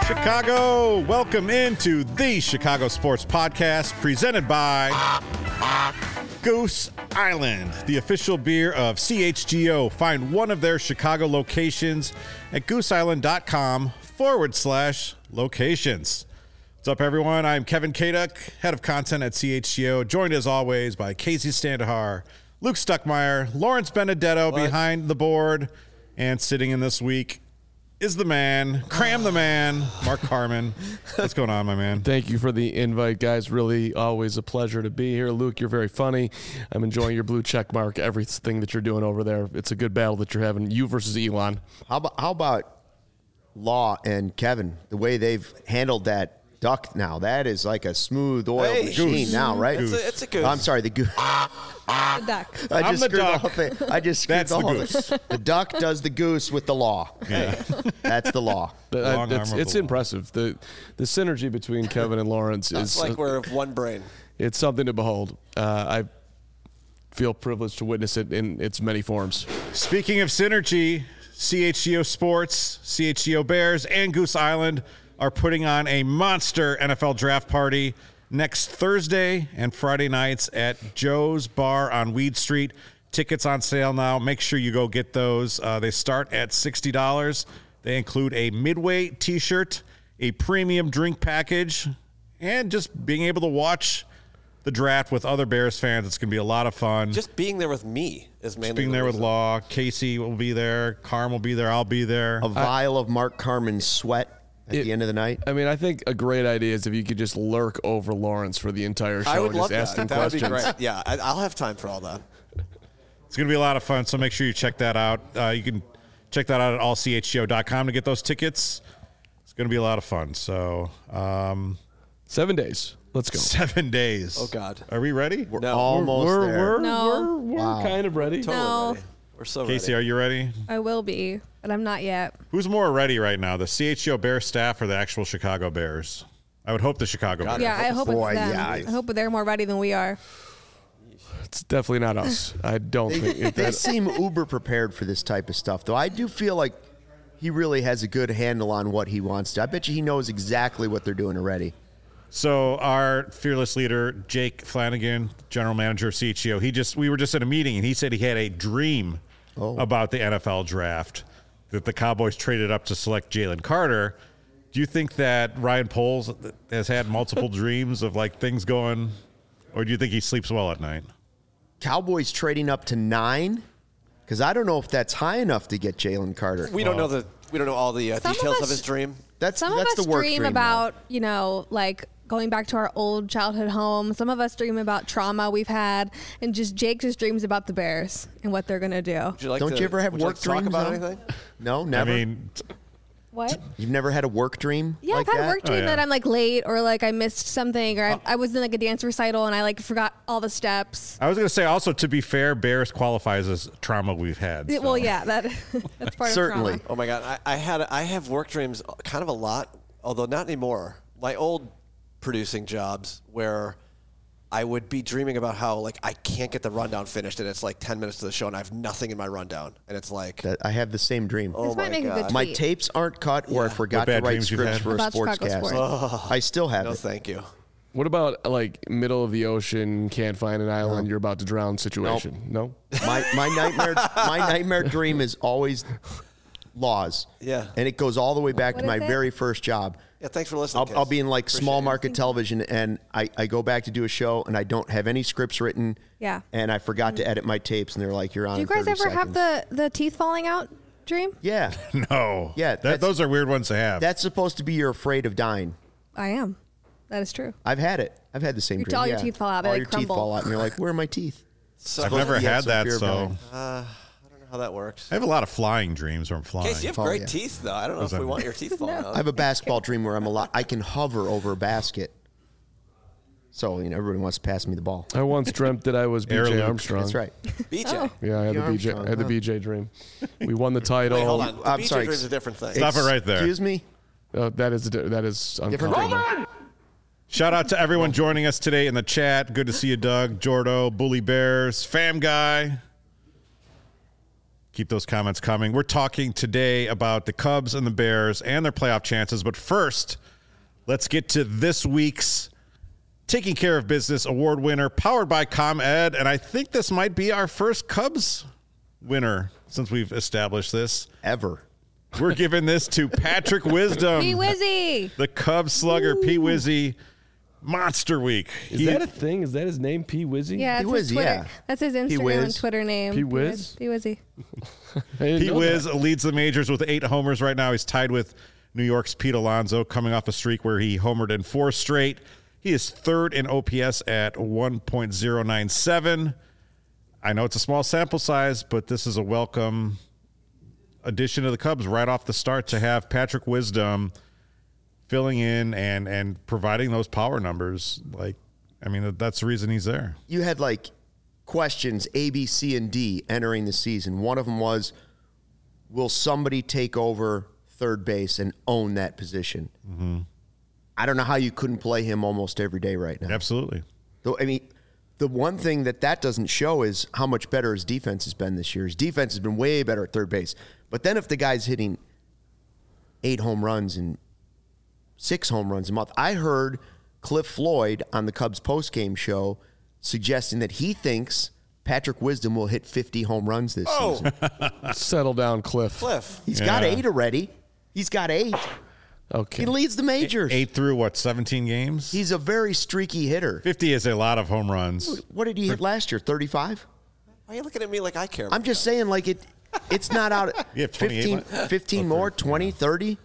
Chicago, welcome into the Chicago Sports Podcast presented by Goose Island, the official beer of CHGO. Find one of their Chicago locations at gooseisland.com/locations. What's up, everyone? I'm Kevin Kaduk, head of content at CHGO, joined as always by Casey Standahar, Luke Stuckmeyer, Lawrence Benedetto behind the board, and sitting in this week is the man, the man, Mark Carman. What's going on, my man? Thank you for the invite, guys. Really always a pleasure to be here. Luke, you're very funny. I'm enjoying your blue check mark, everything that you're doing over there. It's a good battle that you're having, you versus Elon. How about Law and Kevin, the way they've handled that duck now? That is like a smooth oil machine now, right? It's a goose. I'm sorry, the goose. The duck. I'm the duck. I just screwed That's the the whole goose. thing. The duck does the goose with the law. Yeah. That's the law. Long arm of It's the law. impressive. The synergy between Kevin and Lawrence It's is like we're of one brain. it's something to behold. I feel privileged to witness it in its many forms. Speaking of synergy, CHGO Sports, CHGO Bears, and Goose Island are putting on a monster NFL draft party next Thursday and Friday nights at Joe's Bar on Weed Street. Tickets on sale now. Make sure you go get those. They start at $60. They include a Midway t-shirt, a premium drink package, and just being able to watch the draft with other Bears fans. It's going to be a lot of fun. Just being there with me is mainly Being the there with reason. Law. Casey will be there. Carm will be there. I'll be there. A vial of Mark Carman's sweat at the end of the night. I mean, I think a great idea is if you could just lurk over Lawrence for the entire show I would and love just ask him that. That would questions. be great. Yeah, I'll have time for all that. It's going to be a lot of fun, so make sure you check that out. You can check that out at allchgo.com to get those tickets. It's going to be a lot of fun. So, 7 days. Let's go. 7 days. Oh, God. Are we ready? We're No. almost there. No. We're kind of ready. Totally No. ready. We're so Casey, ready. are you ready? I will be, but I'm not yet. Who's more ready right now, the CHGO Bears staff or the actual Chicago Bears? I would hope the Chicago Bears. Yeah, I hope Boy, it's them. yeah. I hope they're more ready than we are. It's definitely not us. I don't think They it. seem uber prepared for this type of stuff, though. I do feel like he really has a good handle on what he wants to. I bet you he knows exactly what they're doing already. So our fearless leader, Jake Flanagan, general manager of CHGO, we were just at a meeting, and he said he had a dream about the NFL draft, that the Cowboys traded up to select Jalen Carter. Do you think that Ryan Poles has had multiple dreams of like things going, or do you think he sleeps well at night? Cowboys trading up to 9? Because I don't know if that's high enough to get Jalen Carter. We don't know all the Some of details of us- his dream. That's Some of that's us the work dream dream, about, like going back to our old childhood home. Some of us dream about trauma we've had, and Jake just dreams about the Bears and what they're gonna do. Would you like Don't to, you ever have would you work like to talk dreams, about though? anything? No, never. I mean, What? You've never had a work dream? Yeah, like I've had that? a work dream yeah. that I'm like late, or like I missed something, or I was in like a dance recital and I like forgot all the steps. I was going to say also, to be fair, Bears qualifies as trauma we've had. so. Well, yeah, that's part Certainly. of trauma. Oh my God, I have work dreams kind of a lot, although not anymore. My old producing jobs where I would be dreaming about how like I can't get the rundown finished, and it's like 10 minutes to the show, and I have nothing in my rundown, and it's like, I have the same dream. oh This might my make a good God. My tweet. tapes aren't cut, or I forgot What to bad write dreams you've scripts had? for a About Chicago sportscast. sports. I still have No, it. thank you. What about like middle of the ocean, can't find an island, you're about to drown situation? No? My nightmare dream is always laws. Yeah. And it goes all the way back What to my is it? very first job. Yeah, thanks for listening. I'll Kiz. be in like Appreciate small it. market television, and I go back to do a show, and I don't have any scripts written. Yeah. And I forgot to edit my tapes, and they're like, "You're on." Do you in guys 30 ever have seconds. the teeth falling out dream? Yeah. No. Yeah, Those are weird ones to have. That's supposed to be you're afraid of dying. I am. That is true. I've had it. I've had the same dream. all your yeah. teeth fall out, they, All like, your teeth crumble. fall out, and you're like, "Where are my teeth?" So, I've never Yeah, had some that, fear of so dying. I don't know how that works. I have a lot of flying dreams where I'm flying. Casey, you have Oh, great yeah. teeth, though. I don't know if we want your teeth falling out. I have a basketball dream where I can hover over a basket. So, everybody wants to pass me the ball. I once dreamt that I was Air BJ Luke. Armstrong. That's right. BJ. Yeah, I had the BJ. Armstrong, I had the huh? BJ dream. We won the title. Wait, hold on. The I'm BJ sorry. dream is a different thing. Stop it right there. Excuse me? That is Different uncomfortable. Shout out to everyone joining us today in the chat. Good to see you, Doug, Jordo, Bully Bears, Fam Guy, Keep those comments coming. We're talking today about the Cubs and the Bears and their playoff chances. But first, let's get to this week's Taking Care of Business award winner, powered by ComEd. And I think this might be our first Cubs winner since we've established this. Ever. We're giving this to Patrick Wisdom. P. Wizzy. The Cubs slugger, P. Wizzy. Monster Week. Is that a thing? Is that his name, P. Wizzy? Yeah, that's his P-Wizzy, Twitter. yeah. That's his Instagram P-Wiz. and Twitter name. P-Wiz? P. Wizzy. I didn't Pete know Wiz that. leads the majors with 8 homers right now. He's tied with New York's Pete Alonso, coming off a streak where he homered in 4 straight. He is third in OPS at 1.097. I know it's a small sample size, but this is a welcome addition to the Cubs right off the start to have Patrick Wisdom filling in and providing those power numbers. That's the reason he's there. You had like questions A, B, C, and D entering the season. One of them was, will somebody take over third base and own that position? Mm-hmm. I don't know how you couldn't play him almost every day right now. Absolutely. Though, I mean, the one thing that doesn't show is how much better his defense has been this year. His defense has been way better at third base. But then if the guy's hitting 8 home runs and 6 home runs a month, I heard Cliff Floyd on the Cubs postgame show suggesting that he thinks Patrick Wisdom will hit 50 home runs this season. Settle down, Cliff. He's got 8 already. He's got 8. Okay. He leads the majors. 8 through, 17 games? He's a very streaky hitter. 50 is a lot of home runs. What did he hit last year? 35? Why are you looking at me like I care about I'm just saying, like, it's not out. You have 28 15 more, 20, 30?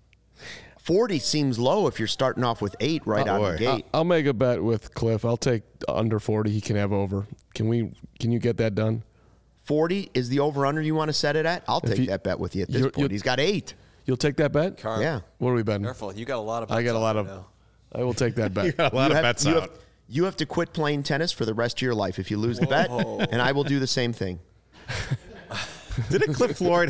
40 seems low if you're starting off with 8 right out of the gate. I'll make a bet with Cliff. I'll take under 40. He can have over. Can you get that done? 40 is the over-under you want to set it at? I'll take that bet with you at this point. He's got 8. You'll take that bet? Yeah. What are we betting? Careful, you got a lot of bets I got a lot out of. right now. I will take that bet. You got a lot of bets out. You have to quit playing tennis for the rest of your life if you lose the bet, and I will do the same thing. Didn't Cliff Floyd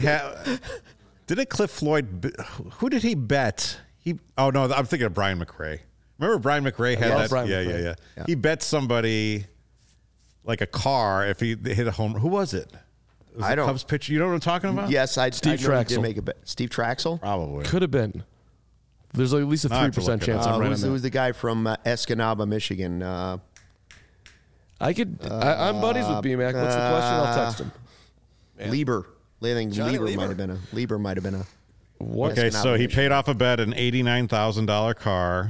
who did he bet? I'm thinking of Brian McRae. Remember Brian McRae had that? Brian Yeah. Yeah. He bet somebody like a car if he hit a home. Who was it? Was I the don't- Cubs pitcher. You know what I'm talking about? Yes, I Steve know he did Traxel. make a bet. Steve Traxel? Probably. Could have been. There's at least a I'll have to 3% look it chance up. I'm right on that. Who's the guy from Escanaba, Michigan? I'm buddies with BMAC. What's the question? I'll text him. Lieber. I think Johnny Lieber Lieber? might have been a. What? Okay, so he paid off a bet, an $89,000 car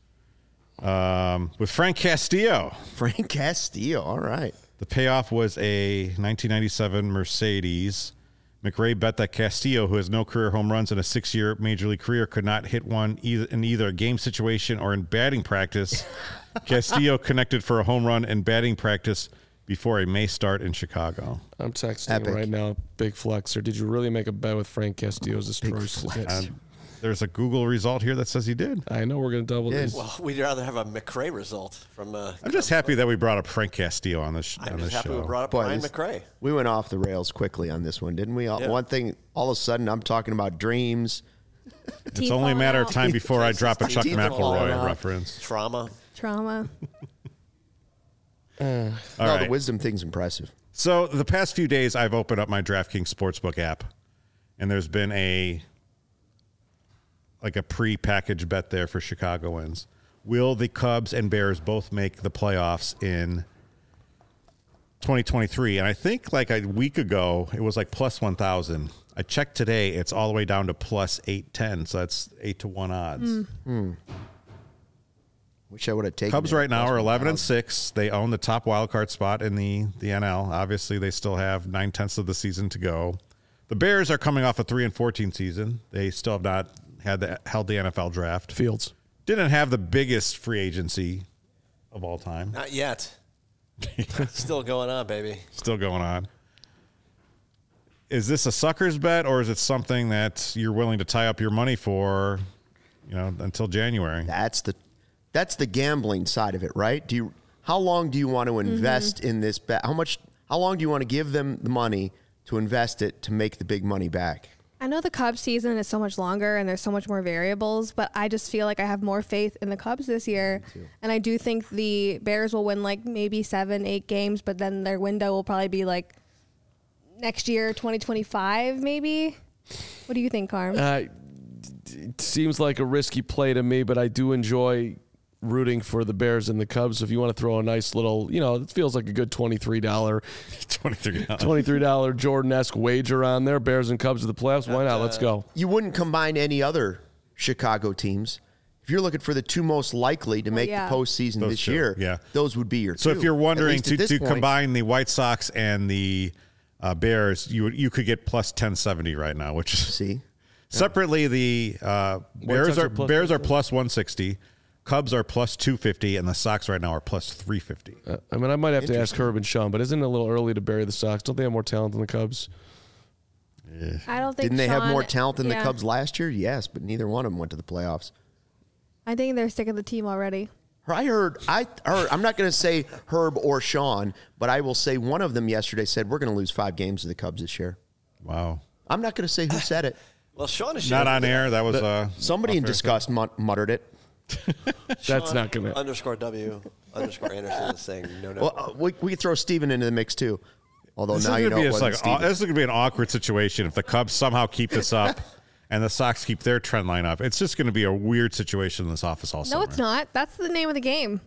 with Frank Castillo. Frank Castillo. All right. The payoff was a 1997 Mercedes. McRae bet that Castillo, who has no career home runs in a 6-year major league career, could not hit one in either a game situation or in batting practice. Castillo connected for a home run in batting practice before a May start in Chicago. I'm texting Epic. right now. Big flexer. Did you really make a bet with Frank Castillo's destroy? There's a Google result here that says he did. I know we're going to double Yeah. this. Well, we'd rather have a McRae result from. I'm just happy that we brought up Frank Castillo on this I'm on just this happy show. we brought up Boy, Brian this- McRae. We went off the rails quickly on this one, didn't we? Yeah. One thing, all of a sudden, I'm talking about dreams. It's only a matter of time before I drop a Chuck Teeth are falling McElroy out. reference. Trauma. Trauma. All No, right. the wisdom thing's impressive. So the past few days, I've opened up my DraftKings Sportsbook app, and there's been a pre-packaged bet there for Chicagoans. Will the Cubs and Bears both make the playoffs in 2023? And I think like a week ago, it was like plus 1,000. I checked today, it's all the way down to plus 810. So that's 8-1 odds. Wish I would have taken Cubs it. right now are Plus 11-6. They own the top wild card spot in the NL. Obviously, they still have 9/10 of the season to go. The Bears are coming off a 3-14 season. They still have not held the NFL draft. Fields. Didn't have the biggest free agency of all time. Not yet. Still going on, baby. Still going on. Is this a sucker's bet, or is it something that you're willing to tie up your money for, until January? That's the gambling side of it, right? How long do you want to invest in this bet? How long do you want to give them the money to invest it to make the big money back? I know the Cubs season is so much longer and there's so much more variables, but I just feel like I have more faith in the Cubs this year. And I do think the Bears will win like maybe 7-8 games, but then their window will probably be like next year, 2025, maybe. What do you think, Carm? It seems like a risky play to me, but I do enjoy rooting for the Bears and the Cubs. If you want to throw a nice little, it feels like a good $23 Jordan-esque wager on there. Bears and Cubs of the playoffs. Why not? Let's go. You wouldn't combine any other Chicago teams. If you're looking for the two most likely to make the postseason this year, those would be your two. So if you're wondering to combine the White Sox and the Bears, you could get plus 1070 right now, which is separately the Bears are plus 160. Cubs are plus 250, and the Sox right now are plus 350. I might have to ask Herb and Sean, but isn't it a little early to bury the Sox? Don't they have more talent than the Cubs? I don't think. Didn't they have more talent than the Cubs last year? Yes, but neither one of them went to the playoffs. I think they're sick of the team already. I heard. I'm not going to say Herb or Sean, but I will say one of them yesterday said we're going to lose 5 games to the Cubs this year. Wow. I'm not going to say who said it. Well, Sean is not on air. That was somebody in disgust muttered it. That's not going to _W _Anderson is saying no. Well, we could throw Steven into the mix too. Although this now is this is going to be an awkward situation if the Cubs somehow keep this up and the Sox keep their trend line up. It's just going to be a weird situation in this office all summer. No, it's not. That's the name of the game.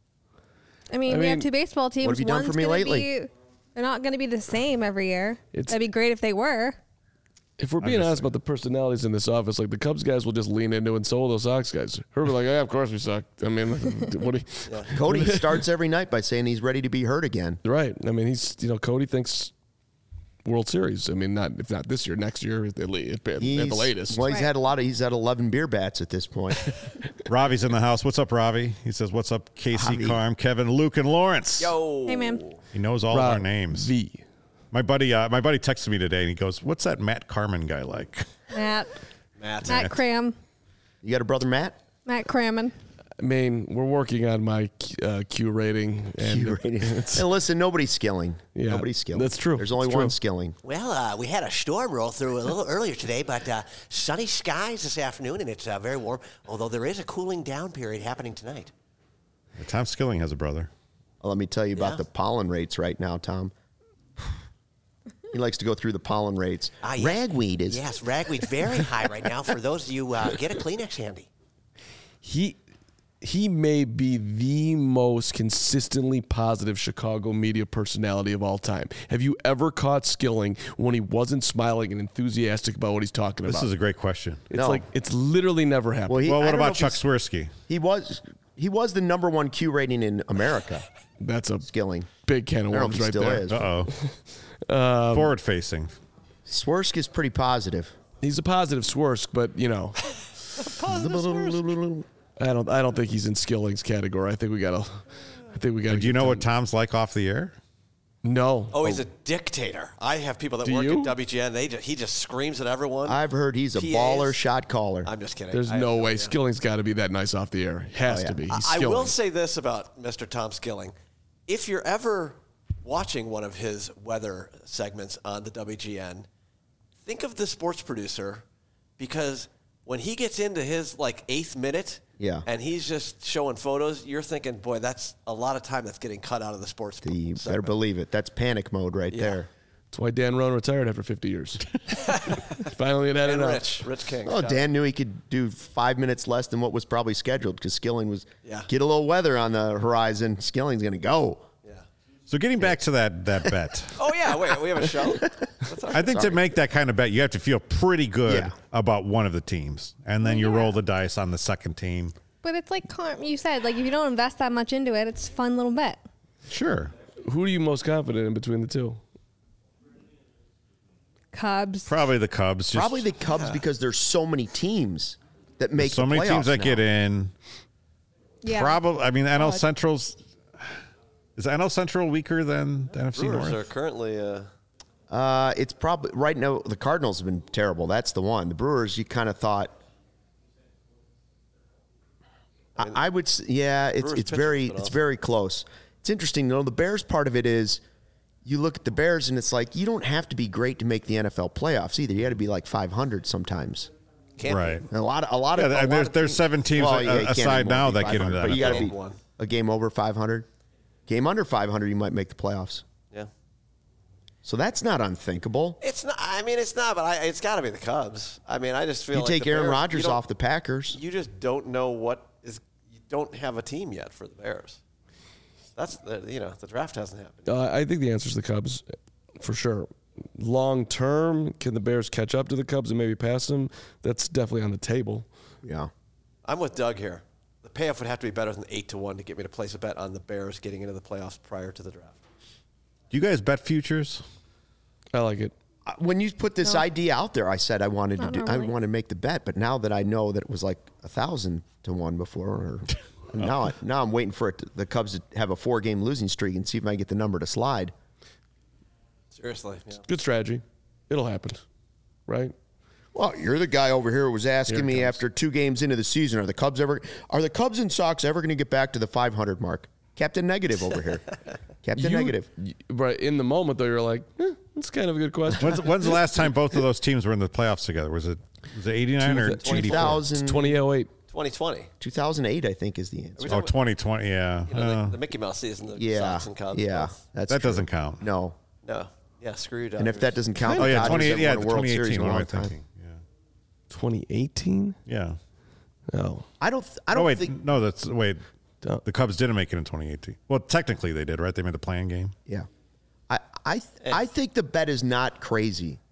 I mean, we have 2 baseball teams. What have you done for me lately? They're not going to be the same every year. That'd be great if they were. If we're being honest about the personalities in this office, like the Cubs guys will just lean into it, and so will those Sox guys. Herb will be like, yeah, of course we suck. I mean, what do you... Cody starts every night by saying he's ready to be hurt again. Right. I mean, Cody thinks World Series. I mean, if not this year, next year at the latest. Well, he's had 11 beer bats at this point. Ravi's in the house. What's up, Ravi? He says, what's up, Casey, Carm, Kevin, Luke, and Lawrence? Yo. Hey, man. He knows all of our names. My buddy texted me today, and he goes, what's that Matt Carman guy like? Matt Cram. You got a brother, Matt? Matt Crammon. I mean, we're working on my Q rating. And listen, nobody's skilling. Yeah, nobody's skilling. That's true. There's only one skilling. Well, we had a storm roll through a little earlier today, but sunny skies this afternoon, and it's very warm, although there is a cooling down period happening tonight. Tom Skilling has a brother. Well, let me tell you about the pollen rates right now, Tom. He likes to go through the pollen rates. Yes. Ragweed is. Yes, ragweed very high right now. For those of you, get a Kleenex handy. He may be the most consistently positive Chicago media personality of all time. Have you ever caught Skilling when he wasn't smiling and enthusiastic about what he's talking about? This is a great question. It's literally never happened. Well, what about Chuck Swirsky? He was the number 1 Q rating in America. That's a Skilling. Big can of worms right there. Uh-oh. Forward facing. Swersk is pretty positive. He's a positive Swersk, but I don't think he's in Skilling's category. I think we gotta. Do you know what Tom's like off the air? No. Oh, he's a dictator. I have people that work at WGN. He just screams at everyone. I've heard he's a baller shot caller. I'm just kidding. There's no way. Skilling's got to be that nice off the air. Has to be. He's I will say this about Mr. Tom Skilling. If you're ever watching one of his weather segments on the WGN, think of the sports producer, because when he gets into his 8th minute and he's just showing photos, you're thinking, boy, that's a lot of time that's getting cut out of the sports You segment. better believe it. That's panic mode right there. That's why Dan Roan retired after 50 years. Finally had and enough. Rich King. Oh, Dan knew he could do 5 minutes less than what was probably scheduled because Skilling was get a little weather on the horizon. Skilling's going to go. So getting back to that bet. Oh, yeah. Wait, we have a show? I think to make that kind of bet, you have to feel pretty good about one of the teams. And then you roll the dice on the second team. But it's like you said, if you don't invest that much into it, it's a fun little bet. Sure. Who are you most confident in between the two? Cubs. Probably the Cubs. Probably the Cubs because there's so many teams that make so the many teams that now. get in. Yeah. Probably. I mean, NL Central's. Is NL Central weaker than the NFC Brewers North? are currently. It's probably right now. The Cardinals have been terrible. That's the one. The Brewers, you kind of thought. I would. It's very close. It's interesting though. The Bears part of it is, you look at the Bears and it's like you don't have to be great to make the NFL playoffs either. You got to be like 500 sometimes. Right. And a lot of there's 7 teams aside now that get into that. But you got to be a game over 500. Game under 500, you might make the playoffs. Yeah. So that's not unthinkable. It's not. I mean, it's not. But it's got to be the Cubs. I mean, I just feel You like take the Aaron Bears, Rodgers you don't- off the Packers. You just don't know what is. You don't have a team yet for the Bears. That's the draft hasn't happened. I think the answer is the Cubs, for sure. Long term, can the Bears catch up to the Cubs and maybe pass them? That's definitely on the table. Yeah. I'm with Doug here. The payoff would have to be better than 8-1 to get me to place a bet on the Bears getting into the playoffs prior to the draft. Do you guys bet futures? I like it. When you put this idea out there, I said I wanted Not to normally. I wanted to make the bet, but now that I know that it was like 1,000 to 1 before, or now I'm waiting for the Cubs to have a 4-game losing streak and see if I get the number to slide. Seriously, yeah. Good strategy. It'll happen, right? Well, you're the guy over here who was asking Here it me comes. after 2 games into the season, are the Cubs and Sox ever going to get back to the 500 mark? Captain Negative over here. Captain Negative. Right in the moment, though, you're like, that's kind of a good question. When's the last time both of those teams were in the playoffs together? Was it 89 or 84? 2000, 2008. 2020. 2008, I think, is the answer. Oh, 2020, yeah. The Mickey Mouse season, the Yeah, Sox and Cubs. yeah, both. that's That true. doesn't count. No, No. Yeah, screw you, and if that doesn't count, Oh, the yeah, Dodgers haven't 20, yeah, won a World Series 2018. in a What am I long time. thinking? Yeah. 2018? Yeah. No. I don't Oh, wait. think. No, wait. Don't. The Cubs didn't make it in 2018. Well, technically they did, right? They made the playing game. Yeah, I think the bet is not crazy.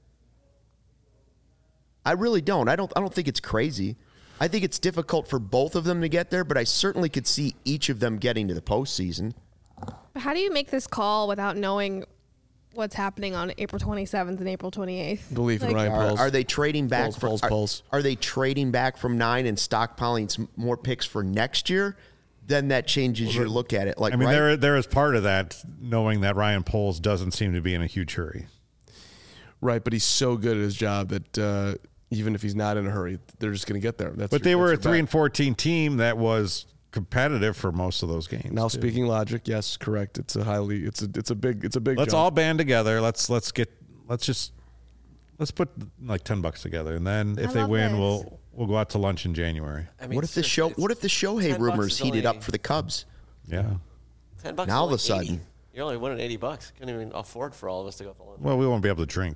I really don't. I don't think it's crazy. I think it's difficult for both of them to get there, but I certainly could see each of them getting to the postseason. But how do you make this call without knowing what's happening on April 27th and April 28th? Believe in Ryan Poles. Are they trading back Poles. Are they trading back from 9 and stockpiling more picks for next year? Then that changes your look at it. Like, I mean, right? there is part of that knowing that Ryan Poles doesn't seem to be in a huge hurry. Right, but he's so good at his job that even if he's not in a hurry, they're just going to get there. But they were a 3-14 team that was competitive for most of those games. Now, too. speaking logic, yes, correct. It's a big. Let's jump. all band together. Let's put like $10 together, and then if they love win, this. we'll go out to lunch in January. I mean, What if the Shohei $10 rumors is heated only up for the Cubs? Yeah. $10 Now is all of only a sudden- 80. You're only winning $80. Couldn't even afford for all of us to go to lunch. Well, we won't be able to drink.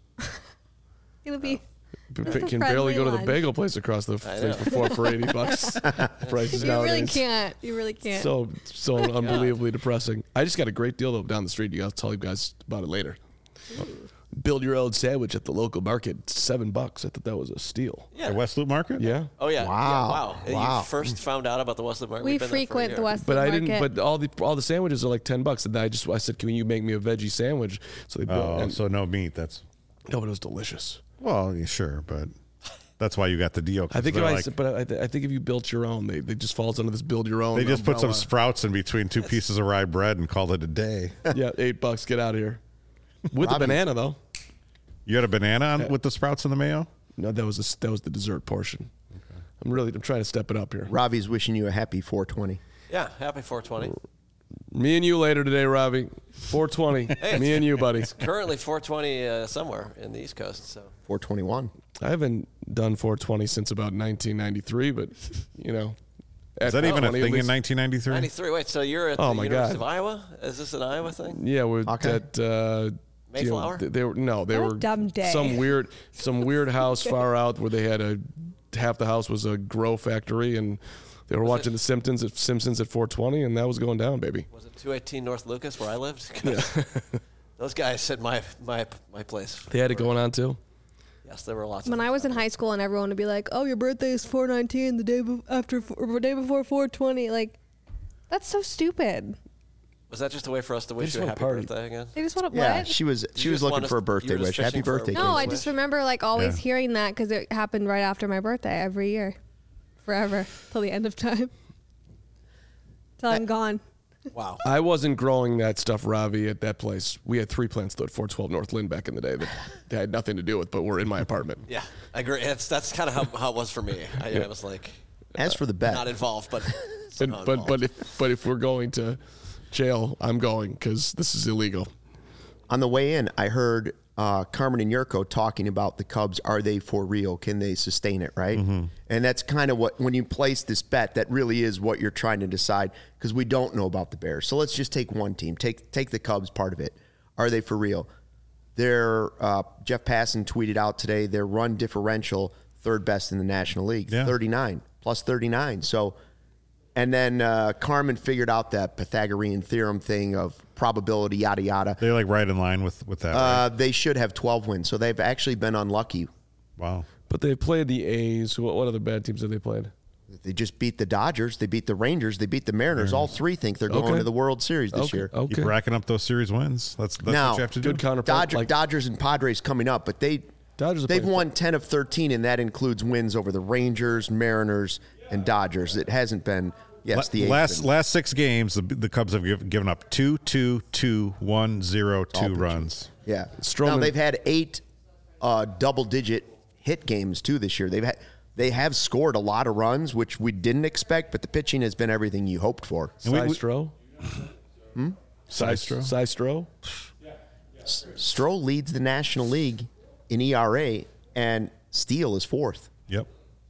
It'll be. Can barely go to the lunch. bagel place across the thing for $80. Prices You nowadays. really can't. You really can't. So unbelievably depressing. I just got a great deal though down the street. I'll tell you guys about it later. Build your own sandwich at the local market, $7. I thought that was a steal. Yeah. At West Loop Market? Yeah. Oh yeah. Wow. Yeah, Wow. You first found out about the Westwood Market. we We've been there for a frequent year. the West But I Market. didn't. But all the sandwiches are like $10. And I said, "Can you make me a veggie sandwich?" So they built. Oh, and, so no meat. That's no, but it was delicious. well, yeah, sure, but that's why you got the deal. 'cause I think they're if I think if you built your own, they just falls under this build your own. they just put some umbrella. sprouts in between 2 pieces of rye bread and called it a day. Yeah, $8. Get out of here. With a Robbie. banana though. You had a banana on, with the sprouts and the mayo? No, that was the dessert portion. I'm trying to step it up here. Robbie's wishing you a happy 420. Yeah, happy 420. Me and you later today, Robbie. 420. Me and you, buddy. Currently 420 somewhere in the East Coast. So 421. I haven't done 420 since about 1993, but Is that even a 420 at thing in least. 1993? 93. Wait, so you're at Oh, the my University God. of Iowa? Is this an Iowa thing? Yeah, we're Okay. at Mayflower? they were What a dumb day. some weird house far out where they had half the house was a grow factory, and they were watching the Simpsons at 420, and that was going down, baby. Was it 218 North Lucas where I lived? Those guys said my place. They had it going on too. Yes, there were lots. When I was in high school and everyone would be like, "Oh, your birthday is 4/19, the day day before 4/20." Like, that's so stupid. Was that just a way for us to wish just you a wanna happy party. birthday again? They just want to Yeah, what? she was just looking want us- for a you birthday were just wish. Happy fishing for a birthday, No, Casey. I just remember like always Yeah. hearing that because it happened right after my birthday every year, forever till the end of time, till I'm gone. Wow. I wasn't growing that stuff, Ravi, at that place. We had 3 plants though at 412 North Lynn back in the day that they had nothing to do with, but were in my apartment. Yeah, I agree. That's kind of how it was for me. I was like As for the bet, not involved, but And, somehow but involved. if we're going to jail, I'm going because this is illegal. on the way in, I heard Carmen and Yurko talking about the Cubs. Are they for real? Can they sustain it, right? Mm-hmm. And that's kind of what, when you place this bet, that really is what you're trying to decide, because we don't know about the Bears. So let's just take one team. Take the Cubs part of it. Are they for real? Their Jeff Passan tweeted out today their run differential, third best in the National League, 39, plus 39. So, and then Carmen figured out that Pythagorean theorem thing of probability, yada, yada. They're like right in line with that. Right? They should have 12 wins. So they've actually been unlucky. Wow. But they've played the A's. What other bad teams have they played? They just beat the Dodgers. They beat the Rangers. They beat the Mariners. All three think they're going to the World Series this year. Okay. Keep racking up those series wins. That's Now, what you have to do. Good counterpoint. Dodgers and Padres coming up, but they've won 10 of 13, and that includes wins over the Rangers, Mariners, and Dodgers. It hasn't been. Yes, the last 6 games, the Cubs have given up 2-2-2-1-0-2 runs. Yeah. Stroman. Now they've had 8 double-digit hit games too this year. They have scored a lot of runs, which we didn't expect, but the pitching has been everything you hoped for. Systro? Systro? Stroh leads the National League in ERA, and Steele is 4th. Yep.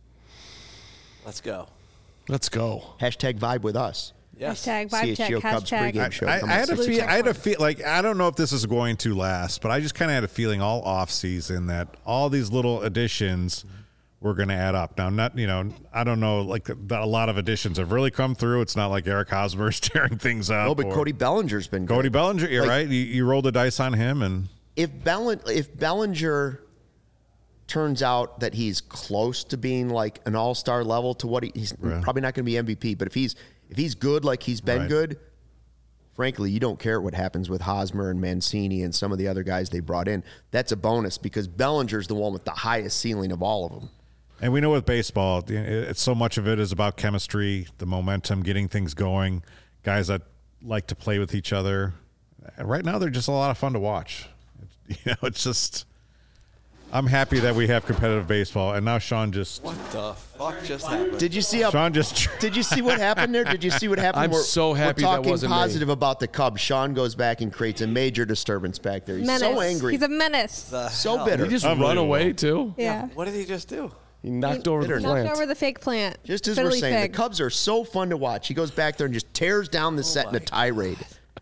Let's go. Let's go. Hashtag vibe with us. Yes. Hashtag vibe check. CHGO Cubs Hashtag. pregame show. I had a Checkpoint. feel like I don't know if this is going to last, but I just kind of had a feeling all off season that all these little additions were going to add up. Now, I don't know, like a lot of additions have really come through. It's not like Eric Hosmer is tearing things up. No, but Cody Bellinger's been good. Cody Bellinger, you're right. You rolled the dice on him, and If Bellinger turns out that he's close to being like an all-star level to what he's probably not going to be MVP, but if he's good like he's been good, frankly, you don't care what happens with Hosmer and Mancini and some of the other guys they brought in. That's a bonus because Bellinger's the one with the highest ceiling of all of them. And we know with baseball, it's so much of it is about chemistry, the momentum, getting things going, guys that like to play with each other. And right now, they're just a lot of fun to watch. It's just I'm happy that we have competitive baseball. And now Sean just What the fuck just happened? Did you see Did you see what happened there? Did you see what happened? I'm so happy we're that talking wasn't me. positive about the Cubs. Sean goes back and creates a major disturbance back there. He's Menace. so angry. He's a menace. So bitter. Did he just run Unbelievable. away, too? Yeah. What did he just do? He knocked over the Knocked plant. over the fake plant. Just as Fiddly we're saying, fig. the Cubs are so fun to watch. He goes back there and just tears down the set in a tirade.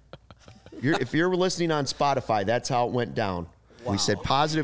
If you're listening on Spotify, that's how it went down. We said positive.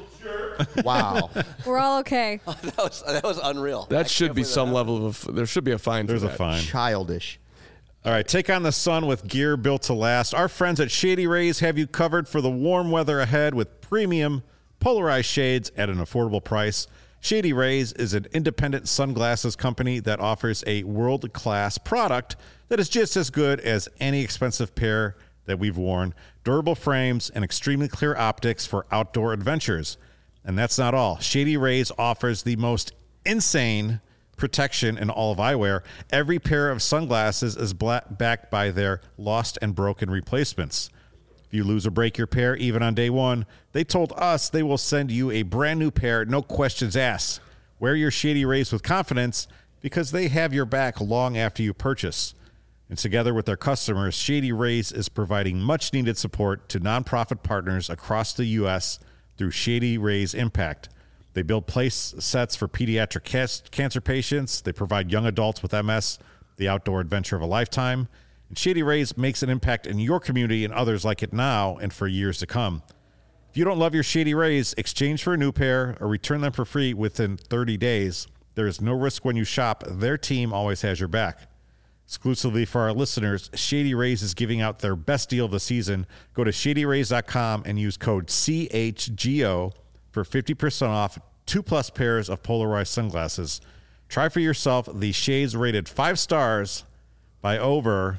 Wow. We're all okay. that was unreal. That should be some level of. There should be a fine. there's for a that. fine. Childish. All right, take on the sun with gear built to last. Our friends at Shady Rays have you covered for the warm weather ahead with premium polarized shades at an affordable price. Shady Rays is an independent sunglasses company that offers a world-class product that is just as good as any expensive pair that we've worn. Durable frames and extremely clear optics for outdoor adventures. And that's not all. Shady Rays offers the most insane protection in all of eyewear. Every pair of sunglasses is backed by their lost and broken replacements. If you lose or break your pair, even on day one, they told us they will send you a brand new pair, no questions asked. Wear your Shady Rays with confidence because they have your back long after you purchase. And together with their customers, Shady Rays is providing much needed support to nonprofit partners across the U.S. through Shady Rays Impact. They build place sets for pediatric cancer patients. They provide young adults with MS the outdoor adventure of a lifetime. And Shady Rays makes an impact in your community and others like it now and for years to come. If you don't love your Shady Rays, exchange for a new pair or return them for free within 30 days. There is no risk when you shop. Their team always has your back. Exclusively for our listeners, Shady Rays is giving out their best deal of the season. Go to shadyrays.com and use code CHGO for 50% off 2+ pairs of polarized sunglasses. Try for yourself the shades rated 5 stars by over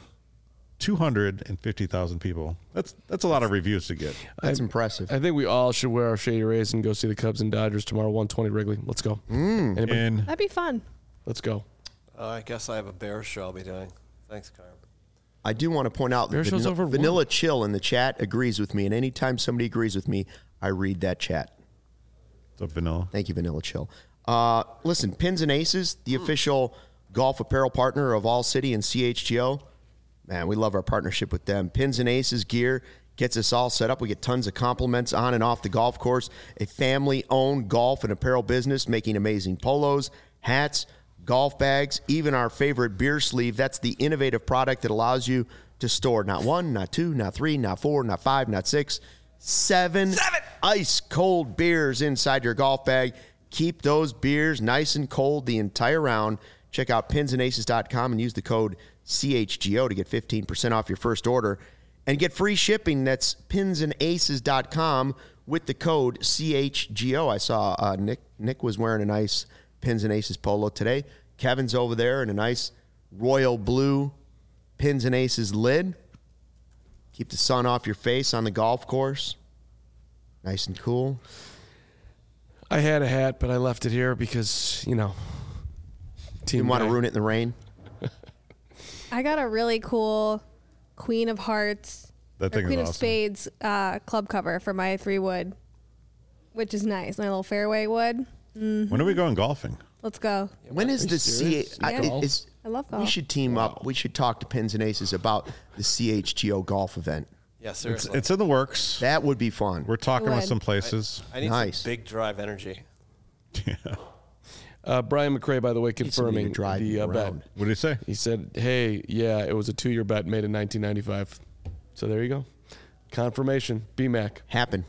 250,000 people. That's a lot of reviews to get. That's impressive. I think we all should wear our Shady Rays and go see the Cubs and Dodgers tomorrow, 120 Wrigley. Let's go. Anybody? And That'd be fun. Let's go. I guess I have a Bears show I'll be doing. Thanks, Carm. I do want to point out Bear that show's over Vanilla Chill in the chat agrees with me, and anytime somebody agrees with me, I read that chat. what's up, Vanilla? Thank you, Vanilla Chill. Listen, Pins and Aces, the official golf apparel partner of All City and CHGO. Man, we love our partnership with them. Pins and Aces gear gets us all set up. We get tons of compliments on and off the golf course. A family-owned golf and apparel business making amazing polos, hats, golf bags, even our favorite beer sleeve. That's the innovative product that allows you to store not 1, not 2, not 3, not 4, not 5, not 6, Seven ice cold beers inside your golf bag. Keep those beers nice and cold the entire round. Check out pinsandaces.com and use the code CHGO to get 15% off your first order and get free shipping. That's pinsandaces.com with the code CHGO. I saw Nick was wearing a nice Pins and Aces polo today. Kevin's over there in a nice royal blue Pins and Aces lid. Keep the sun off your face on the golf course. Nice and cool. I had a hat, but I left it here because, team Didn't want to guy. ruin it in the rain. I got a really cool Queen of Hearts, That or thing is Queen of awesome. Spades club cover for my 3-wood, which is nice. My little fairway wood. When are we going golfing? Let's go. When is the serious? I love golf. We should team up. We should talk to Pins and Aces about the CHGO golf event. Yeah, seriously. It's in the works. That would be fun. We're talking It with would. some places. I need Nice. some big drive energy. Brian McRae, by the way, somebody confirming to drive the you bet. around. What did he say? He said, hey, yeah, it was a 2-year bet made in 1995. So there you go. Confirmation. BMAC. Happen.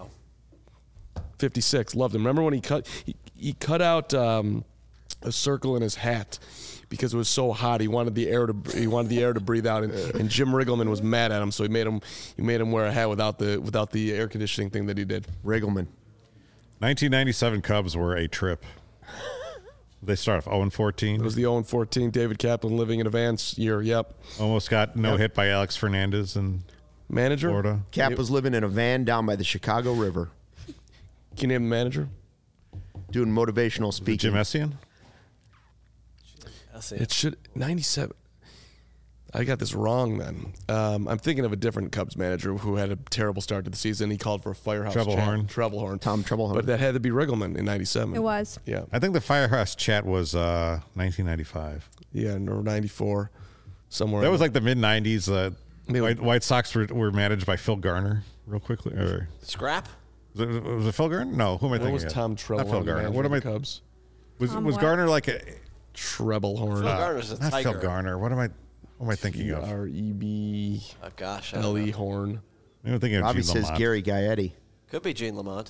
56. Loved him. Remember when he cut out a circle in his hat because it was so hot. He wanted the air to breathe out, and Jim Riggleman was mad at him, so he made him wear a hat without the air conditioning thing that he did. Riggleman. 1997 Cubs were a trip. They start off 0-14. It was the 0-14 David Kaplan living in a van year. Yep. Almost got hit by Alex Fernandez in Manager? Florida. Cap was living in a van down by the Chicago River, Can you name the manager? doing motivational Jim speaking. Essian? I'll see. It should 97. I got this wrong then. I'm thinking of a different Cubs manager who had a terrible start to the season. He called for a firehouse Treblehorn. Treblehorn. Tom Treblehorn. But that had to be Riggleman in 97. It was. Yeah. I think the Firehouse chat was 1995. Yeah, or 94. Somewhere. That was like the mid-90s. Maybe- White Sox were managed by Phil Garner, real quickly. Or, Scrap? was it Phil Garner? No, who am I What thinking was of? Tom Not Treblehorn? Phil Garner. What am I? Cubs? Was Tom what? Garner like a... Treblehorn. Phil Garner's a Not tiger. Phil Garner. What am I thinking of? REB. Oh, gosh. I don't L.E. know. Horn. I'm thinking of Robbie Gene says Lamont. Gary Gaetti. Could be Gene Lamont.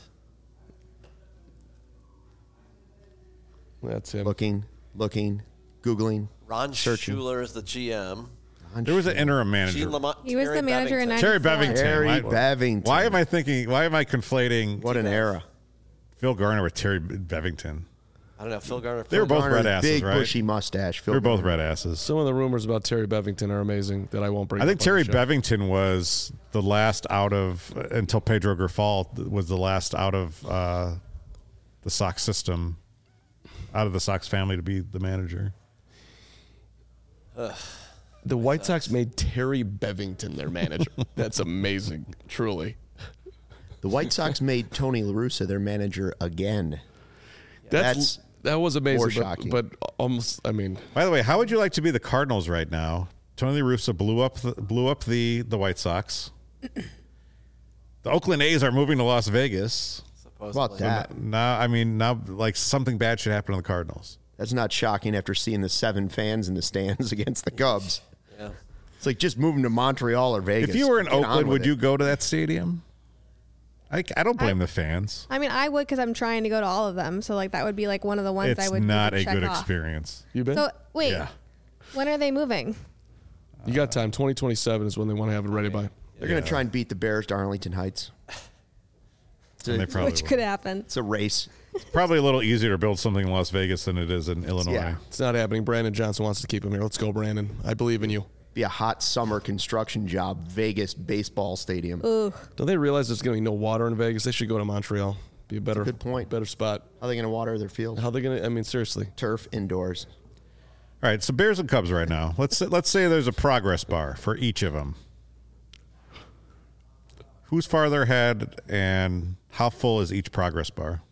That's him. Looking, Googling. Ron Searching. Schuler is the GM. There was an interim manager. Gene Lamont. He was Terry the manager in Bevington. 94. Terry Bevington. Terry Why- Bevington. Why am I conflating What an era. Phil Garner with Terry Bevington? I don't know. Phil Garner. They were both Garner's red asses, big right? bushy mustache. Phil They're both Garner. red asses. Some of the rumors about Terry Bevington are amazing that I won't bring I up think on Terry the show. Bevington was the last out of, until Pedro Grifal was the last out of the Sox system, out of the Sox family to be the manager. The White Sox made Terry Bevington their manager. That's amazing, truly. The White Sox made Tony La Russa their manager again. That was amazing, more shocking. but almost. I mean, By the way, how would you like to be the Cardinals right now? Tony La Russa blew up the White Sox. The Oakland A's are moving to Las Vegas. How about that? Now, like something bad should happen to the Cardinals. That's not shocking after seeing the 7 fans in the stands against the Cubs. Yeah. It's like just moving to Montreal or Vegas. If you were in Get on Oakland, with would it. you go to that stadium? I don't blame the fans. I mean, I would because I'm trying to go to all of them. So like that would be like one of the ones I It's would not a check good off. experience. you been? So wait, Yeah. when are they moving? You got time. 2027 is when they want to have it ready by. They're going to try and beat the Bears to Arlington Heights. And they probably Which will. could happen. It's a race. It's probably a little easier to build something in Las Vegas than it is in Illinois. Yeah. It's not happening. Brandon Johnson wants to keep him here. Let's go, Brandon. I believe in you. Be a hot summer construction job. Vegas baseball stadium. Ooh, Don't they realize there's going to be no water in Vegas? They should go to Montreal. Be a better, good point. better spot. How are they going to water their field? How they going to? I mean, seriously. Turf indoors. All right, so Bears and Cubs right now. Let's say there's a progress bar for each of them. Who's farther ahead, and how full is each progress bar?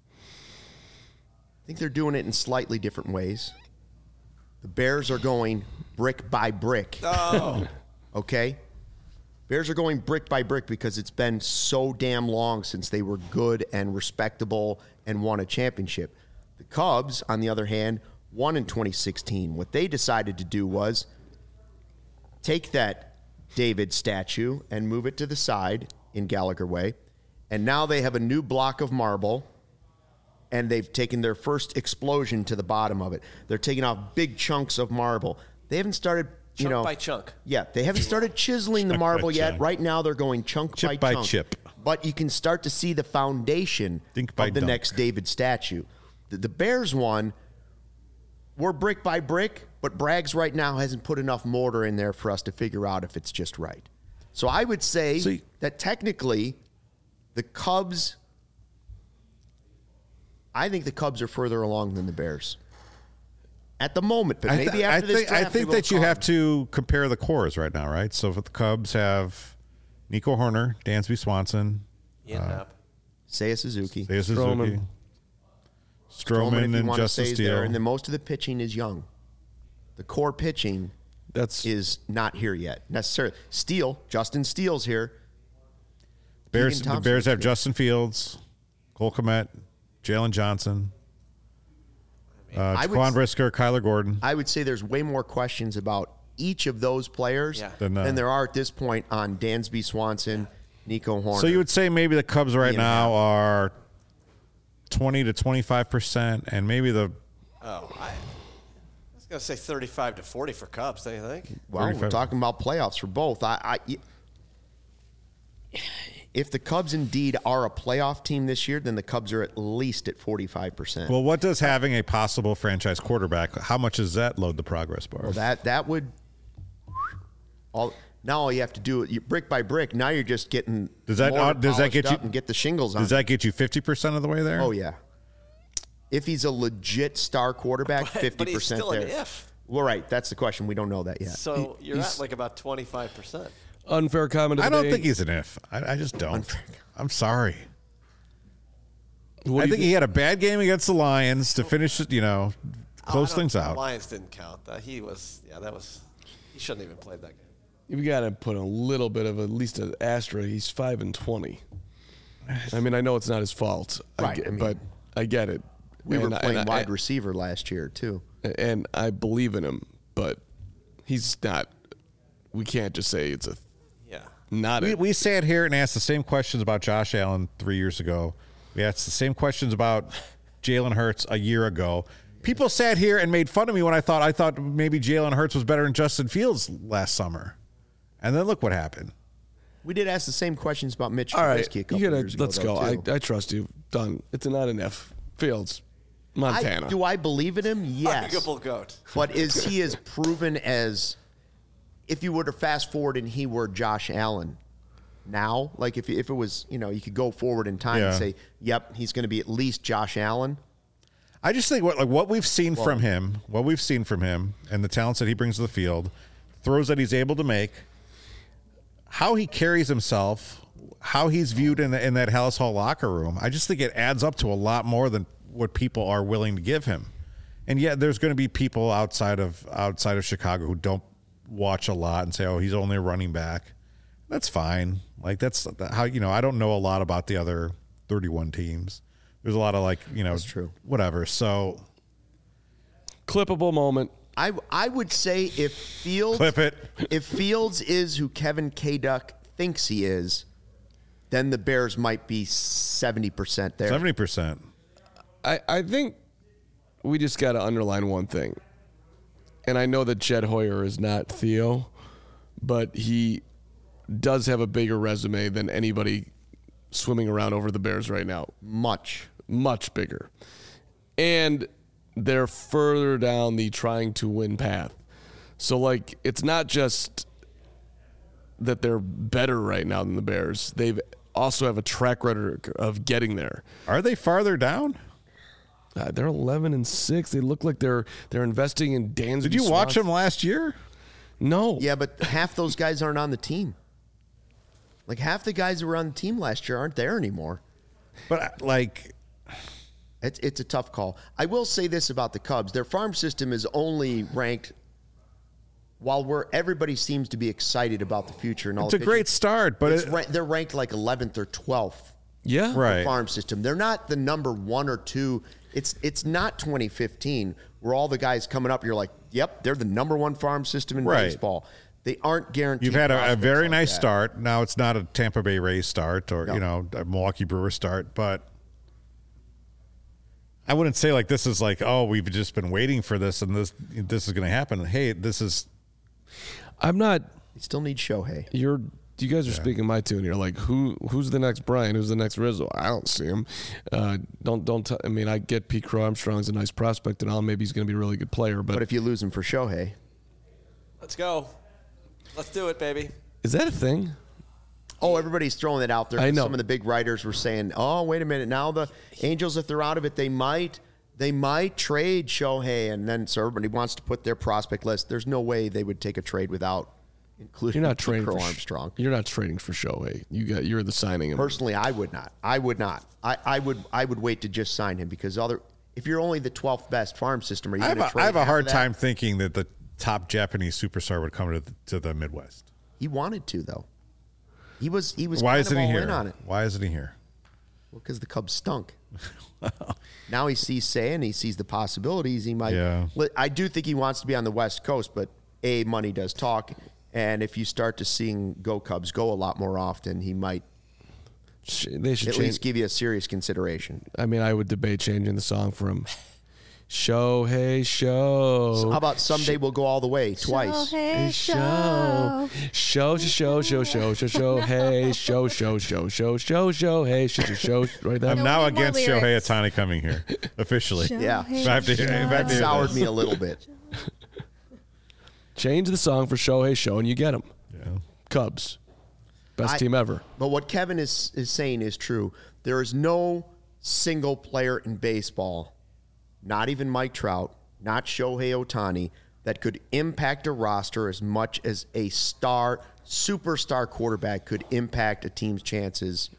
I think they're doing it in slightly different ways. The Bears are going brick by brick. Oh. Okay? Bears are going brick by brick because it's been so damn long since they were good and respectable and won a championship. The Cubs, on the other hand, won in 2016. What they decided to do was take that David statue and move it to the side in Gallagher Way. And now they have a new block of marble, and they've taken their first explosion to the bottom of it. They're taking off big chunks of marble. They haven't started, Chunk by chunk. Yeah, they haven't started chiseling the marble yet. chunk. Right now, they're going chunk Chip by by chunk. chip. But you can start to see the foundation Dink by of the dunk. next David statue. The Bears one, we're brick by brick, but Braggs right now hasn't put enough mortar in there for us to figure out if it's just right. So I would say that technically the Cubs, I think the Cubs are further along than the Bears at the moment, but maybe after this draft, I think that you have to compare the cores right now, right? So if the Cubs have Nico Horner, Dansby Swanson, Ian Happ. Seiya Suzuki. Seiya Suzuki, Stroman, if you and want to Justin say is Steele. there, and then most of the pitching is young. The core pitching is not here yet necessarily. Justin Steele's here. The Thompson Bears is have here. Justin Fields, Cole Kmet, Jalen Johnson, Jaquan Brisker, Kyler Gordon. I would say there's way more questions about each of those players than there are at this point on Dansby Swanson, Nico Horner. So you would say maybe the Cubs right now are 20 to 25%, and maybe the I was going to say 35 to 40 for Cubs, don't you think? Well, we're talking about playoffs for both. If the Cubs indeed are a playoff team this year, then the Cubs are at least at 45%. Well, what does having a possible franchise quarterback, how much does that load the progress bar? Well, that would now all you have to do brick by brick. Now you're just getting does that get you and get the shingles on. Does that get you 50% of the way there? Oh yeah. If he's a legit star quarterback, 50% but he's still there. an if. Well, right. That's the question. We don't know that yet. So you're at like about 25%. Unfair comment of the I don't day. think he's an if. I just don't. I'm sorry. What I do you think he had a bad game against the Lions to finish, close things The out. Lions didn't count. He shouldn't even played that game. You got to put a little bit of at least an asterisk. He's 5-20. I mean, I know it's not his fault, Right, but I get it. We were And playing wide receiver last year too. and I believe in him, but he's not. We can't just say it's not. We sat here and asked the same questions about Josh Allen 3 years ago. We asked the same questions about Jalen Hurts a year ago. People sat here and made fun of me when I thought maybe Jalen Hurts was better than Justin Fields last summer. And then look what happened. We did ask the same questions about Mitch All right, Trubisky a couple years ago. let's go. too. I trust you. Done. It's not an F. Fields, Montana. Do I believe in him? Yes. Arguable goat. But is he as proven as if you were to fast forward and he were Josh Allen now? Like if it was, you could go forward in time and say, yep, he's going to be at least Josh Allen. I just think what we've seen from him, and the talents that he brings to the field, throws that he's able to make, how he carries himself, how he's viewed in that Hallis Hall locker room, I just think it adds up to a lot more than what people are willing to give him. And yet there's going to be people outside of Chicago who don't watch a lot and say, oh, he's only a running back. That's fine. Like that's how, I don't know a lot about the other 31 teams. There's a lot of That's true. Whatever. So Clippable moment. I would say if Fields clip it. if Fields is who Kevin K. Duck thinks he is, then the Bears might be 70% there. 70%. I think we just got to underline one thing. And I know that Jed Hoyer is not Theo, but he does have a bigger resume than anybody swimming around over the Bears right now. Much bigger. And they're further down the trying to win path. So, it's not just that they're better right now than the Bears. They've also have a track record of getting there. Are they farther down? They're 11-6. They look like they're investing in Dansby. Did you watch them last year? No. Yeah, but half those guys aren't on the team. Like half the guys that were on the team last year aren't there anymore. But it's a tough call. I will say this about the Cubs: their farm system is only ranked. While everybody seems to be excited about the future and all, it's a great start, but they're ranked like 11th or 12th. Yeah, right. Farm system. They're not the number 1 or 2. It's not 2015 where all the guys coming up. You're like, yep, they're the number 1 farm system in baseball. They aren't guaranteed. You've had a prospects very like nice that. start. Now it's not a Tampa Bay Rays start or No. a Milwaukee Brewers start, but I wouldn't say like this is like, oh, we've just been waiting for this and this is going to happen. Hey, this is. I'm not. They still need Shohei. You guys are speaking my tune here. Like, who's the next Brian? Who's the next Rizzo? I don't see him. I get Pete Crow Armstrong's a nice prospect and all. Maybe he's going to be a really good player. But if you lose him for Shohei, Let's go. Let's do it, baby. is that a thing? everybody's throwing it out there. I know. Some of the big writers were saying, "Oh, wait a minute. Now the Angels, if they're out of it, they might trade Shohei." And then so everybody wants to put their prospect list. There's no way they would take a trade without including You're not Pete trading Crow for Armstrong. You're not trading for Shohei. You're the signing him. Personally, I would not. I would wait to just sign him because if you're only the 12th best farm system, are you going to trade? I have a half hard of that? time thinking that the top Japanese superstar would come to the Midwest. He wanted to though. He was. Why kind isn't of he all here? in on it. Why isn't he here? Well, because the Cubs stunk. Now he sees Say, he sees the possibilities. He might. Yeah. I do think he wants to be on the West Coast, but money does talk, and if you start to seeing Go Cubs go a lot more often, he might They should at change. least give you a serious consideration. I mean, I would debate changing the song from Shohei Show. So how about Someday We'll Go All the Way twice? Shohei Show, show, show, show, show, show, show, hey, show, show, show, show, show, show, hey, show, right there. I'm No, now we need more against Shohei lyrics. Otani coming here officially. Yeah. Shohei I have to hear- I have to That hear soured this. me a little bit. Change the song for Shohei Show, and you get him. Yeah. Cubs, best team ever. But what Kevin is saying is true. There is no single player in baseball, not even Mike Trout, not Shohei Ohtani, that could impact a roster as much as a superstar quarterback could impact a team's chances.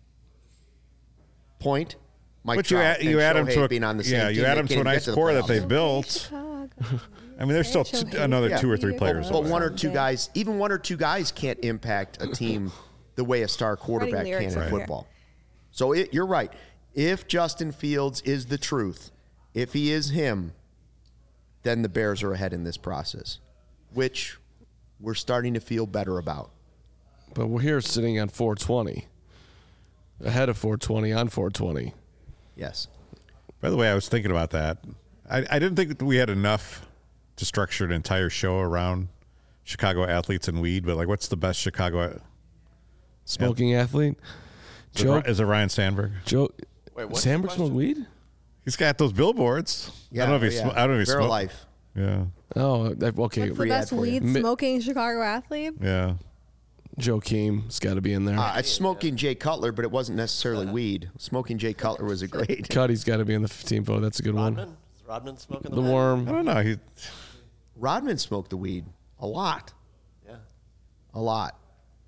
Point. Mike But Trout you and add them Shohei to a being on the same team, you they add them can't to a even get nice the core that playoffs. they've built. Chicago. I mean, there's still another Yeah. 2 or 3 players. But away. one or two guys, even one or two guys can't impact a team the way a star quarterback can lyrics in over here. football. So you're right. If Justin Fields is the truth, if he is him, then the Bears are ahead in this process, which we're starting to feel better about. But we're here sitting on 420, ahead of 420 on 420. Yes. By the way, I was thinking about that. I didn't think that we had enough to structure an entire show around Chicago athletes and weed, but like, what's the best Chicago? Smoking athlete. Joe, Is it Ryan Sandberg? Joe, Wait, what's Sandberg the smoke weed? He's got those billboards. I don't know if he's. I don't know if he's Barrel smoke. Life. Yeah, Oh, okay. What's the Free ad best for you. weed smoking Chicago athlete? yeah. Joakim has got to be in there. It's smoking Jay Cutler, but it wasn't necessarily weed. Smoking Jay Cutler was a great. Cuddy's got to be in the team vote. That's a good one. Rodman? Is Rodman smoking The weed? I worm. don't know. He Rodman smoked the weed a lot. Yeah. A lot.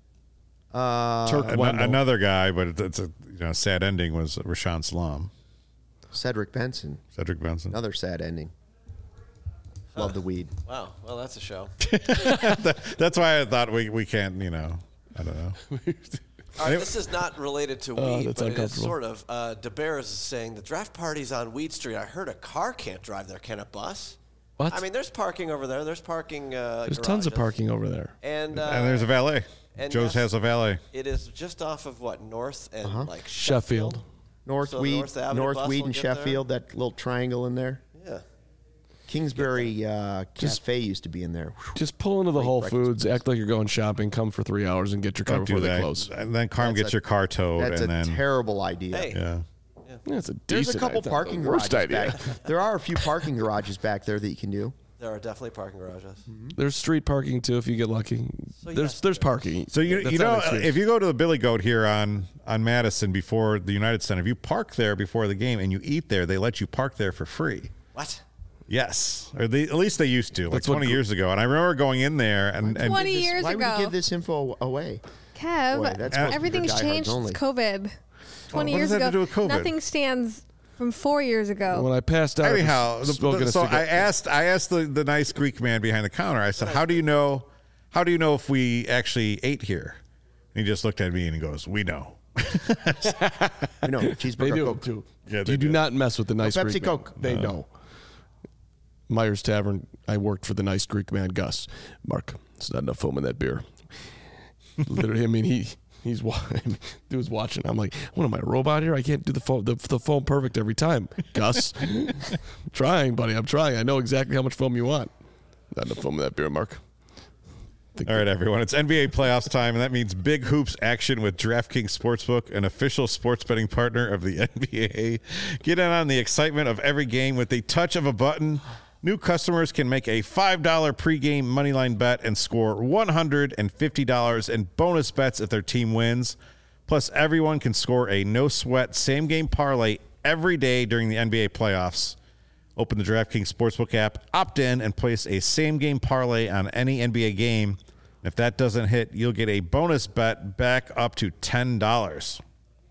Turk Wendell. another guy, but it's a sad ending was Rashawn Salam, Cedric Benson. Cedric Benson. Another sad ending. Love the weed. Wow. Well, that's a show. That's why I thought we can't. I don't know. All right, this is not related to weed, that's but it is uncomfortable. sort of. DeBears is saying the draft party's on Weed Street. I heard a car can't drive there. Can a bus? What? I mean, there's parking over there. There's parking. There's tons of garages. parking over there. And And there's a valet. and Joe's yes, has a valet. It is just off of what, North and like Sheffield. North So the Weed, North Avenue North bus Weed will and get there? Sheffield, that little triangle in there. Yeah. Kingsbury Cafe used to be in there. Just pull into the Whole breakfast Foods, act like you're going shopping, come for 3 hours, and get your car Don't do before they that. close. And then Carm That's gets a- your car towed, That's and a then terrible idea. Hey. yeah. Yeah, it's a There's a decent couple idea. parking Worst garages idea. back. There are a few parking garages back there that you can do. There are definitely parking garages. There's street parking too if you get lucky. So there's yes, parking. So That's not an excuse. if you go to the Billy Goat here on Madison before the United Center, if you park there before the game and you eat there, they let you park there for free. What? Yes, or at least they used to, like That's what 20 years ago. And I remember going in there and 20 years Why would you ago. give this info away? Kev, Boy, that's supposed to be everything's for diehards changed only. since COVID. 20 what years does that ago, have to do with COVID? nothing stands from 4 years ago. When I passed out, anyhow, smoking a so I cigarette. asked the nice Greek man behind the counter. I said, "How do you know if we actually ate here?" And he just looked at me and he goes, "We know." You know, cheeseburger They do Coke. too. Yeah, they you do do. not mess with the nice Pepsi Greek man. Coke. They know. Myers Tavern. I worked for the nice Greek man, Gus. Mark. There's not enough foam in that beer. Literally, I mean, dude was watching. I'm like, what am I, a robot here? I can't do the foam perfect every time. Gus, I'm trying, buddy. I'm trying. I know exactly how much foam you want. Not enough foam in that beer, Mark. All right, everyone. It's NBA playoffs time, and that means big hoops action with DraftKings Sportsbook, an official sports betting partner of the NBA. Get in on the excitement of every game with the touch of a button. New customers can make a $5 pregame moneyline bet and score $150 in bonus bets if their team wins. Plus, everyone can score a no-sweat same-game parlay every day during the NBA playoffs. Open the DraftKings Sportsbook app, opt in, and place a same-game parlay on any NBA game. If that doesn't hit, you'll get a bonus bet back up to $10.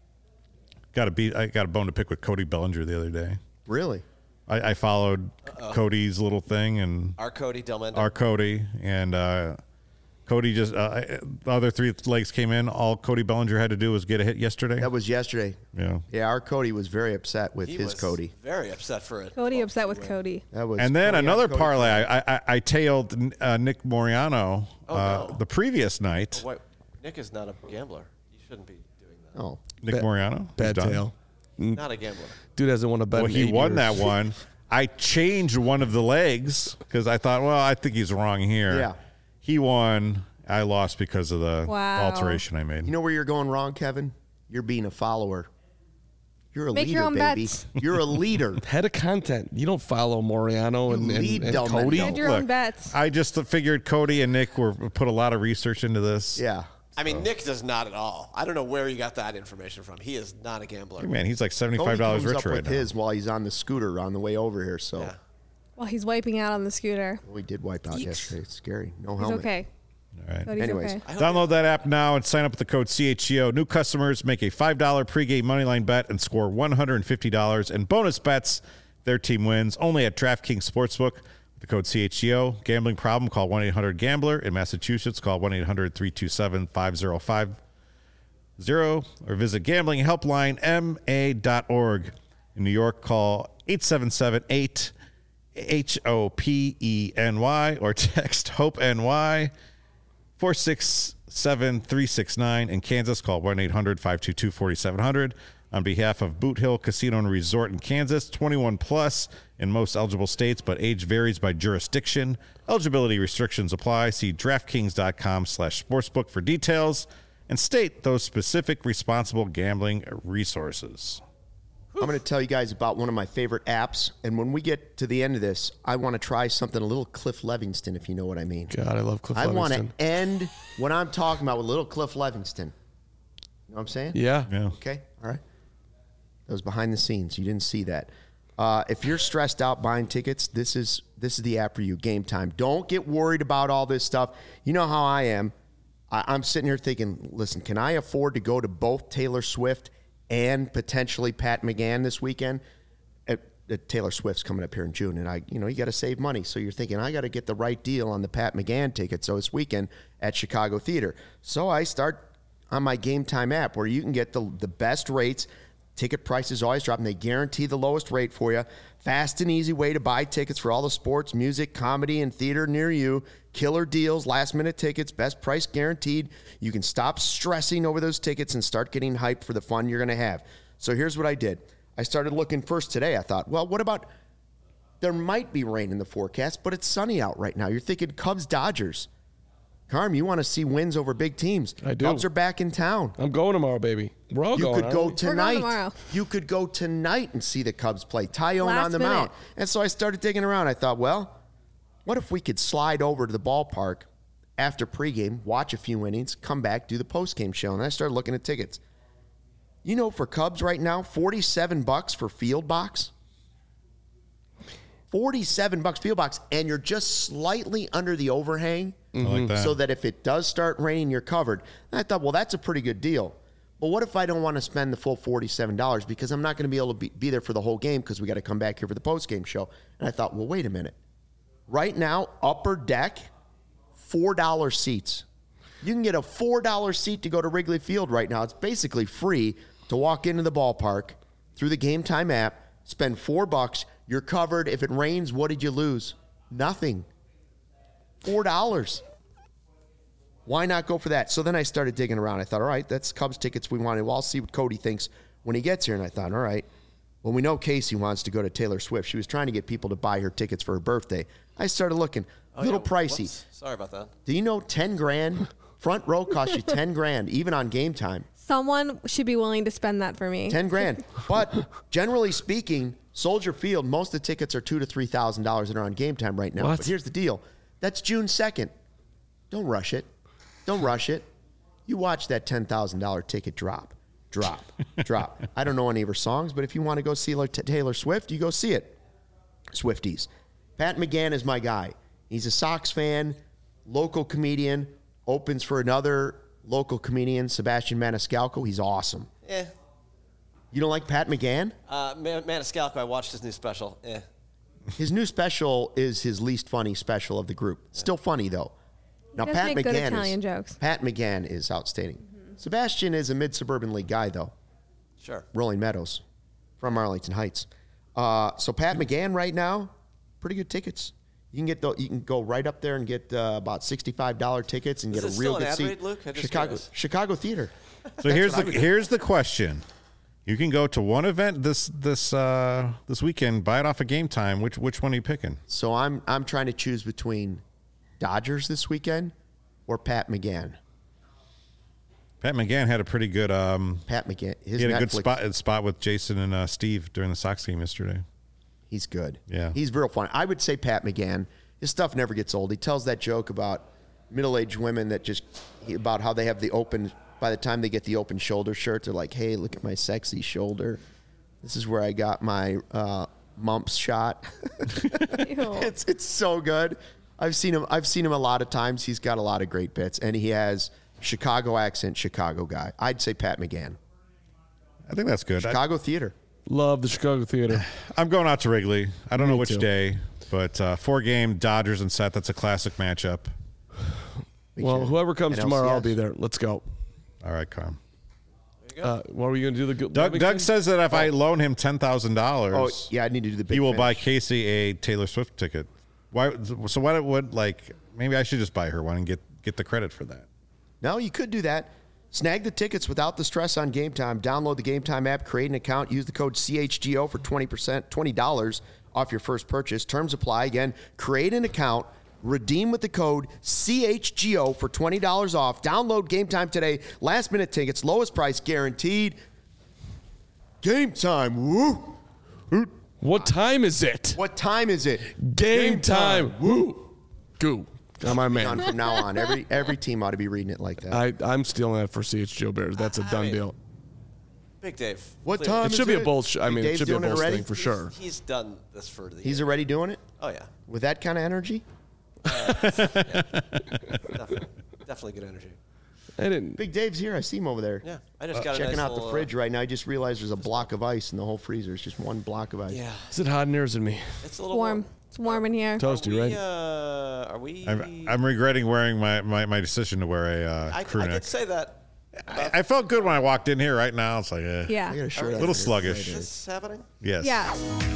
I got a bone to pick with Cody Bellinger the other day. Really? I followed Cody's little thing and Our Cody Delmendo. our Cody and Cody just the other three legs came in. All Cody Bellinger had to do was get a hit yesterday. That was yesterday. Yeah. Yeah, our Cody was very upset with He his was Cody. very upset for it. Cody upset with Cody. That was. And then Cody on another Cody. parlay. I tailed Nick Moriano no. the previous night. Wait, Nick is not a gambler. You shouldn't be doing that. Oh, Nick Moriano. Bad He's done. tail. Not a gambler. Dude hasn't won a bet Well, in he 8 won years. that one. I changed one of the legs because I thought, well, I think he's wrong here. Yeah. He won. I lost because of the Wow. alteration I made. you know where you're going wrong, Kevin? You're being a follower. You're a Make leader, your own baby. bets. You're a leader. Head of content. You don't follow Moriano and lead and Del Cody. Mendo. Add your own bets. I just figured Cody and Nick put a lot of research into this. Yeah. I mean, Nick does not at all. I don't know where you got that information from. He is not a gambler. Man, he's like Cody $75 comes richer up right with now. his while he's on the scooter on the way over here. So Yeah. While he's wiping out on the scooter. we did wipe out yesterday. It's scary. No He's helmet. okay. All right. Cody's Anyways. okay. Download that app now and sign up with the code CHGO. New customers make a $5 pregame moneyline bet and score $150 in bonus bets if their team wins. Only at DraftKings Sportsbook. With the code CHGO. Gambling problem? Call 1-800-GAMBLER. In Massachusetts, call 1-800-327-5050 or visit gamblinghelplinema.org. In New York, call 877-8-HOPENY or text HOPE-NY 467-369. In Kansas, call 1-800-522-4700. On behalf of Boot Hill Casino and Resort in Kansas, 21 plus in most eligible states, but age varies by jurisdiction. Eligibility restrictions apply. See DraftKings.com/sportsbook for details and state those specific responsible gambling resources. I'm going to tell you guys about one of my favorite apps. And when we get to the end of this, I want to try something a little Cliff Levingston, if you know what I mean. God, I love Cliff I want Livingston. to end what I'm talking about with little Cliff Levingston. You know what I'm saying? Yeah. Okay. All right. That was behind the scenes. You didn't see that. If you're stressed out buying tickets, this is the app for you. Game Time. Don't get worried about all this stuff. You know how I am. I'm sitting here thinking, listen, can I afford to go to both Taylor Swift and potentially Pat McGann this weekend? Taylor Swift's coming up here in June, and you got to save money. So you're thinking, I got to get the right deal on the Pat McGann ticket. So this weekend at Chicago Theater. So I start on my Game Time app where you can get the best rates. Ticket prices always drop, and they guarantee the lowest rate for you. Fast and easy way to buy tickets for all the sports, music, comedy, and theater near you. Killer deals, last-minute tickets, best price guaranteed. You can stop stressing over those tickets and start getting hyped for the fun you're going to have. So here's what I did. I started looking first today. I thought, well, what about there might be rain in the forecast, but it's sunny out right now. You're thinking Cubs-Dodgers. Carm, you want to see wins over big teams. I do. Cubs are back in town. I'm going tomorrow, baby. We're all You going. could aren't go we? going tonight. tomorrow. You could go tonight and see the Cubs play. Tyone Last on the minute. mound. And so I started digging around. I thought, well, what if we could slide over to the ballpark after pregame, watch a few innings, come back, do the postgame show? And I started looking at tickets. You know, for Cubs right now, $47 for field box. $47 field box, and you're just slightly under the overhang. I like that. So that if it does start raining, you're covered. And I thought, well, that's a pretty good deal. Well, what if I don't want to spend the full $47 because I'm not going to be able to be there for the whole game because we got to come back here for the postgame show? And I thought, well, wait a minute. Right now, upper deck, $4 seats. You can get a $4 seat to go to Wrigley Field right now. It's basically free to walk into the ballpark through the Game Time app, spend $4. You're covered. If it rains, what did you lose? Nothing. $4. Why not go for that? So then I started digging around. I thought, all right, that's Cubs tickets we wanted. Well, I'll see what Cody thinks when he gets here. And I thought, all right, well, we know Casey wants to go to Taylor Swift. She was trying to get people to buy her tickets for her birthday. I started looking, a little pricey. Whoops. Sorry about that. Do you know 10 grand? Front row costs you 10 grand, even on game time. Someone should be willing to spend that for me. 10 grand. But generally speaking, Soldier Field, most of the tickets are $2,000 to $3,000 that are on game time right now. What? But here's the deal. That's June 2nd. Don't rush it. Don't rush it. You watch that $10,000 ticket drop. I don't know any of her songs, but if you want to go see Taylor Swift, you go see it. Swifties. Pat McGann is my guy. He's a Sox fan, local comedian, opens for another local comedian, Sebastian Maniscalco. He's awesome. Eh. You don't like Pat McGann? Maniscalco, I watched his new special. His new special is his least funny special of the group. Still funny, though. Now, does Pat make good McGann Italian jokes. Pat McGann is outstanding. Sebastian is a mid-suburban league guy, though. Sure. Rolling Meadows from Arlington Heights. So Pat McGann right now, pretty good tickets. You can go right up there and get about $65 tickets and Is get it a real still good an ad seat. read, Luke? I'm just Chicago Theater. So here's the question. You can go to one event this weekend, buy it off of Game Time. Which one are you picking? So I'm trying to choose between Dodgers this weekend or Pat McGann. Pat McGann had a pretty good Pat McGann. he had a good spot with Jason and Steve during the Sox game yesterday. He's good. Yeah. He's real funny. I would say Pat McGann. His stuff never gets old. He tells that joke about middle-aged women about how they have the open, by the time they get the open shoulder shirt, they're like, hey, look at my sexy shoulder. This is where I got my mumps shot. It's so good. I've seen him a lot of times. He's got a lot of great bits, and he has Chicago accent, Chicago guy. I'd say Pat McGann. I think that's good. Chicago Theater. Love the Chicago Theater. I'm going out to Wrigley. I don't know which too. day, but 4-game Dodgers and Seth. That's a classic matchup. Well, whoever comes NLCS. tomorrow, I'll be there. Let's go. All right, Carm. What were you going to do? Doug says that if I loan him $10,000, Oh, yeah, I need to do the big he will finish. buy Casey a Taylor Swift ticket. Why? So why would maybe I should just buy her one and get the credit for that. No, you could do that. Snag the tickets without the stress on Game Time. Download the Game Time app, create an account, use the code CHGO for $20 off your first purchase. Terms apply. Again, create an account, redeem with the code CHGO for $20 off. Download Game Time today. Last minute tickets, lowest price guaranteed. Game Time. Woo! What time is it? What time is it? Game time. Woo! Goo. I'm my On man. from now on, every team ought to be reading it like that. I'm stealing that for CHGO Bears. That's a done deal. Big Dave. What clearly. time It is should be a it? Bulls. I Big mean, it Dave's should be a doing it Bulls already? thing for sure. He's done this for the He's year. already doing it Oh, yeah. with that kind of energy. Definitely good energy. I didn't. Big Dave's here. I see him over there. Yeah. I just got a Checking nice out the little, fridge right now. I just realized there's a block of ice in the whole freezer. It's just one block of ice. Yeah. Is it hot in yours and me? It's a little Warm. It's warm in here. Toasty, right? Are we? I'm regretting wearing my decision to wear a I crew did neck. say that. I felt good when I walked in here. Right now, it's like I got Yeah. a shirt. a little sluggish. Is this happening? Yes. Yeah.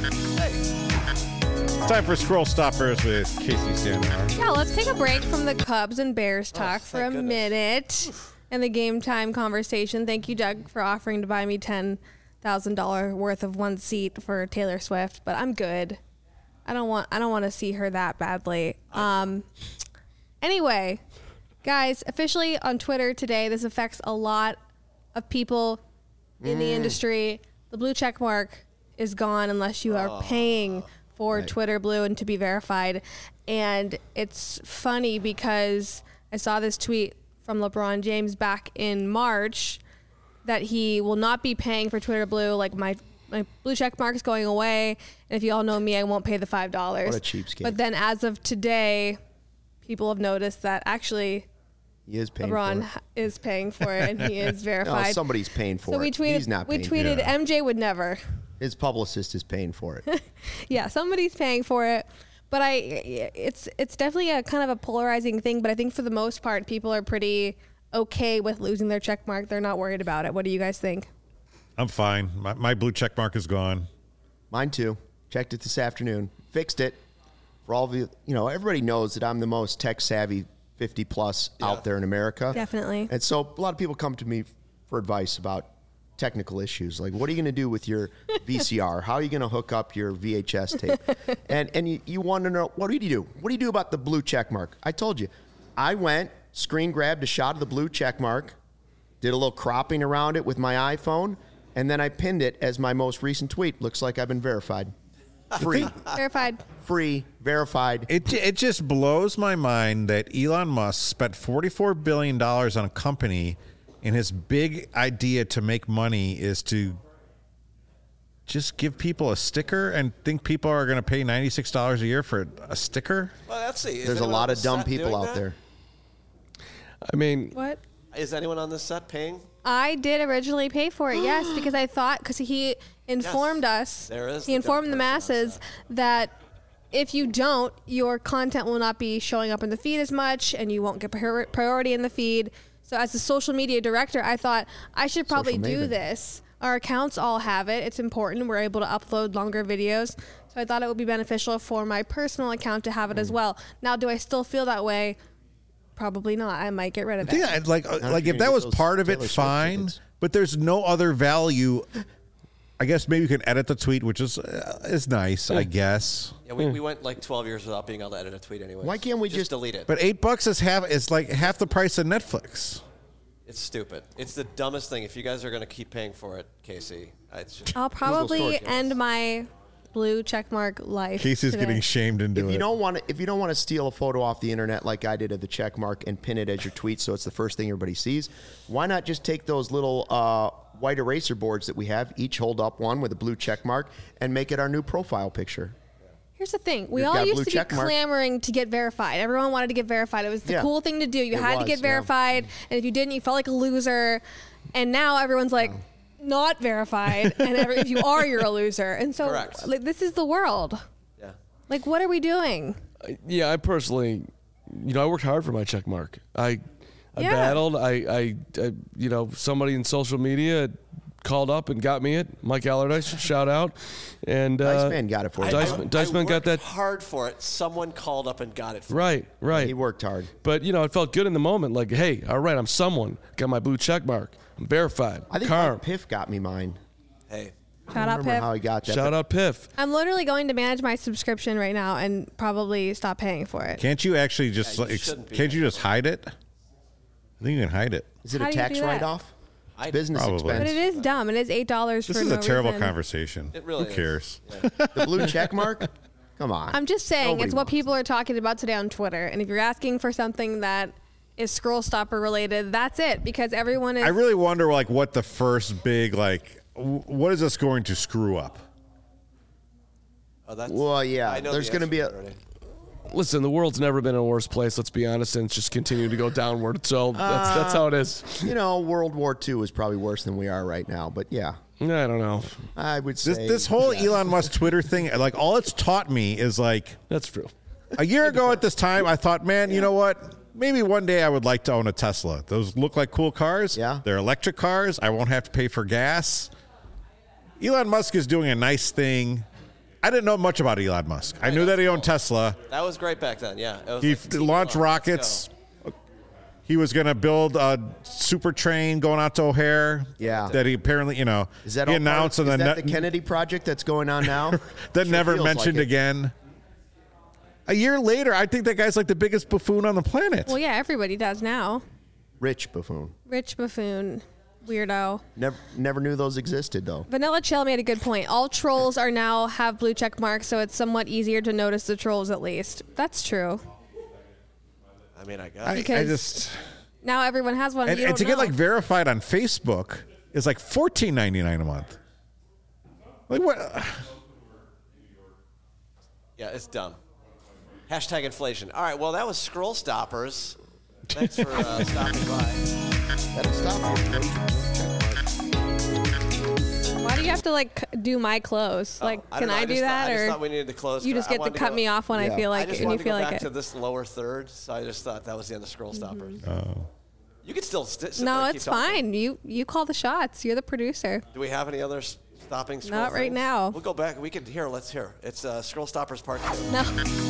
Time for Scroll Stoppers with Casey Standard. Yeah, let's take a break from the Cubs and Bears talk for a thank goodness. minute and the Game Time conversation. Thank you, Doug, for offering to buy me $10,000 worth of one seat for Taylor Swift, but I'm good. I don't want to see her that badly. Anyway, guys, officially on Twitter today, this affects a lot of people in the industry. The blue check mark is gone unless you are paying for Twitter Blue and to be verified. And it's funny because I saw this tweet from LeBron James back in March that he will not be paying for Twitter Blue. Like my blue check mark is going away. And if you all know me, I won't pay the $5. What a cheapskate. But then as of today, people have noticed that actually He is paying LeBron for is paying for it and he is it. verified. No, somebody's paying for so it. we tweeted, He's not paying for it. MJ would never. His publicist is paying for it. Yeah, somebody's paying for it. But it's definitely a kind of a polarizing thing. But I think for the most part, people are pretty okay with losing their check mark. They're not worried about it. What do you guys think? I'm fine. My blue check mark is gone. Mine too. Checked it this afternoon. Fixed it. For all of you, everybody knows that I'm the most tech savvy 50 plus out there in America. Definitely. And so a lot of people come to me for advice about technical issues, like what are you going to do with your VCR? How are you going to hook up your VHS tape? And you want to know, what do you do? What do you do about the blue check mark? I told you. I went, screen grabbed a shot of the blue check mark, did a little cropping around it with my iPhone, and then I pinned it as my most recent tweet. Looks like I've been verified. Free. Verified. Free, verified. It just blows my mind that Elon Musk spent $44 billion on a company, and his big idea to make money is to just give people a sticker and think people are going to pay $96 a year for a sticker. Well, let's see. Is There's a anyone lot on of the dumb set people doing out that? there. I mean, What? Is anyone on this set paying? I did originally pay for it, yes, because I thought, because he informed us, There is he the informed the dumb person on masses that if you don't, your content will not be showing up in the feed as much, and you won't get priority in the feed. So as a social media director, I thought I should probably Social do maven. this. Our accounts all have it. It's important. We're able to upload longer videos. So I thought it would be beneficial for my personal account to have it as well. Now, do I still feel that way? Probably not. I might get rid of I think it. like you're if gonna that get was those part of it, Taylor Swift fine. tickets. But there's no other value. I guess maybe you can edit the tweet, which is nice, I guess. Yeah, we went like 12 years without being able to edit a tweet anyway. Why can't we just- delete it? But $8 is like half the price of Netflix. It's stupid. It's the dumbest thing. If you guys are going to keep paying for it, Casey, it's just, I'll probably storage end my blue checkmark life. Casey's today. getting shamed into If it. you don't want to steal a photo off the internet like I did of the check mark and pin it as your tweet so it's the first thing everybody sees, why not just take those little white eraser boards that we have, each hold up one with a blue check mark, and make it our new profile picture? Here's the thing. We You've all got used blue to be check mark. clamoring to get verified. Everyone wanted to get verified. It was the Yeah. cool thing to do. You It had to was, get yeah. verified. And if you didn't, you felt like a loser. And now everyone's like, not verified. And if you are, you're a loser. And so Correct. like, this is the world. yeah. Like, what are we doing? yeah, I personally, I worked hard for my check mark. I Yeah. battled. I somebody in social media called up and got me it. Mike Allardyce, shout out. And Dice Man got it for you. Dice Man got worked that. hard for it. Someone called up and got it for me. Right. He worked hard. But it felt good in the moment. Like, hey, all right, I'm someone. Got my blue check mark. I'm verified. I think Carm. Mike Piff got me mine. Hey, Shout I out, don't remember Pip. how he got that. Shout but out Piff. I'm literally going to manage my subscription right now and probably stop paying for it. Can't you actually just Yeah, you shouldn't be can't you just hide it? I think you can hide it. Is it How a do you tax do that? write-off? I- Business Probably. But expense. it is dumb. It is $8 This for is no a terrible reason. conversation. It really Who is. cares? The blue check mark? Come on. I'm just saying Nobody it's what wants people are talking about today on Twitter. And if you're asking for something that is scroll stopper related, that's it. Because everyone is. I really wonder what the first big what is this going to screw up? Oh, that's, Well, yeah, I know there's the gonna be answer a- already. Listen, the world's never been in a worse place. Let's be honest, and it's just continuing to go downward. So that's how it is. World War II is probably worse than we are right now. But yeah, I don't know. I would say This whole Elon Musk Twitter thing, all it's taught me is That's true. a year ago at this time, I thought, man, you know what? Maybe one day I would like to own a Tesla. Those look like cool cars. Yeah. They're electric cars. I won't have to pay for gas. Elon Musk is doing a nice thing. I didn't know much about Elon Musk. I knew that he owned Tesla. That was great back then. Yeah. It was He like, team launched up, let's rockets. go. He was going to build a super train going out to O'Hare. Yeah. That he apparently, Is that he all announced part of, and is then that the Kennedy project that's going on now? then Sure never feels mentioned like it. again. A year later, I think that guy's like the biggest buffoon on the planet. Well, yeah, everybody does now. Rich buffoon. Rich buffoon, weirdo. Never knew those existed though. Vanilla Chill made a good point. All trolls are now have blue check marks, so it's somewhat easier to notice the trolls at least. That's true. I mean, I guess. I because just Now everyone has one. and, you and to don't get know. verified on Facebook is like $14.99 a month. Like what? Yeah, it's dumb. Hashtag inflation. All right, well, that was Scroll Stoppers. Thanks for stopping by. That'll stop Why do you have to do my clothes? Oh, Can I do that, I just or thought we needed to close. you just I get to wanted cut go- me off when I Yeah. feel I like just and you wanted to feel go like back it? to this lower third, so I just thought that was the end of Scroll Stoppers. Oh. You could still sit there No, and keep it's talking. fine. You call the shots. You're the producer. Do we have any other Stopping scroll Not right things? now. We'll go back. We can hear. Let's hear. It's Scroll Stoppers Part 2. No.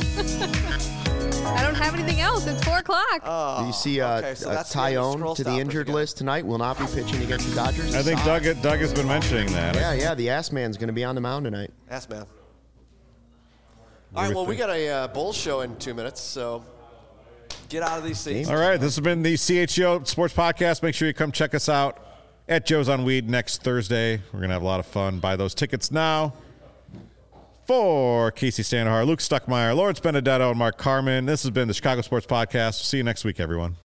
I don't have anything else. It's 4 o'clock. Do you see okay, so that's the end of Tyone Scroll to the Stoppers injured again. list tonight? Will not be pitching against the Dodgers. I think Doug has been mentioning that. Yeah, the ass man's going to be on the mound tonight. Ask man. do All right, we well, we think? got a Bulls show in 2 minutes, so get out of these seats. All right, this has been the CHGO Sports Podcast. Make sure you come check us out at Joe's on Weed next Thursday. We're going to have a lot of fun. Buy those tickets now. For Casey Standahar, Luke Stuckmeyer, Lawrence Benedetto, and Mark Carmen, this has been the Chicago Sports Podcast. See you next week, everyone.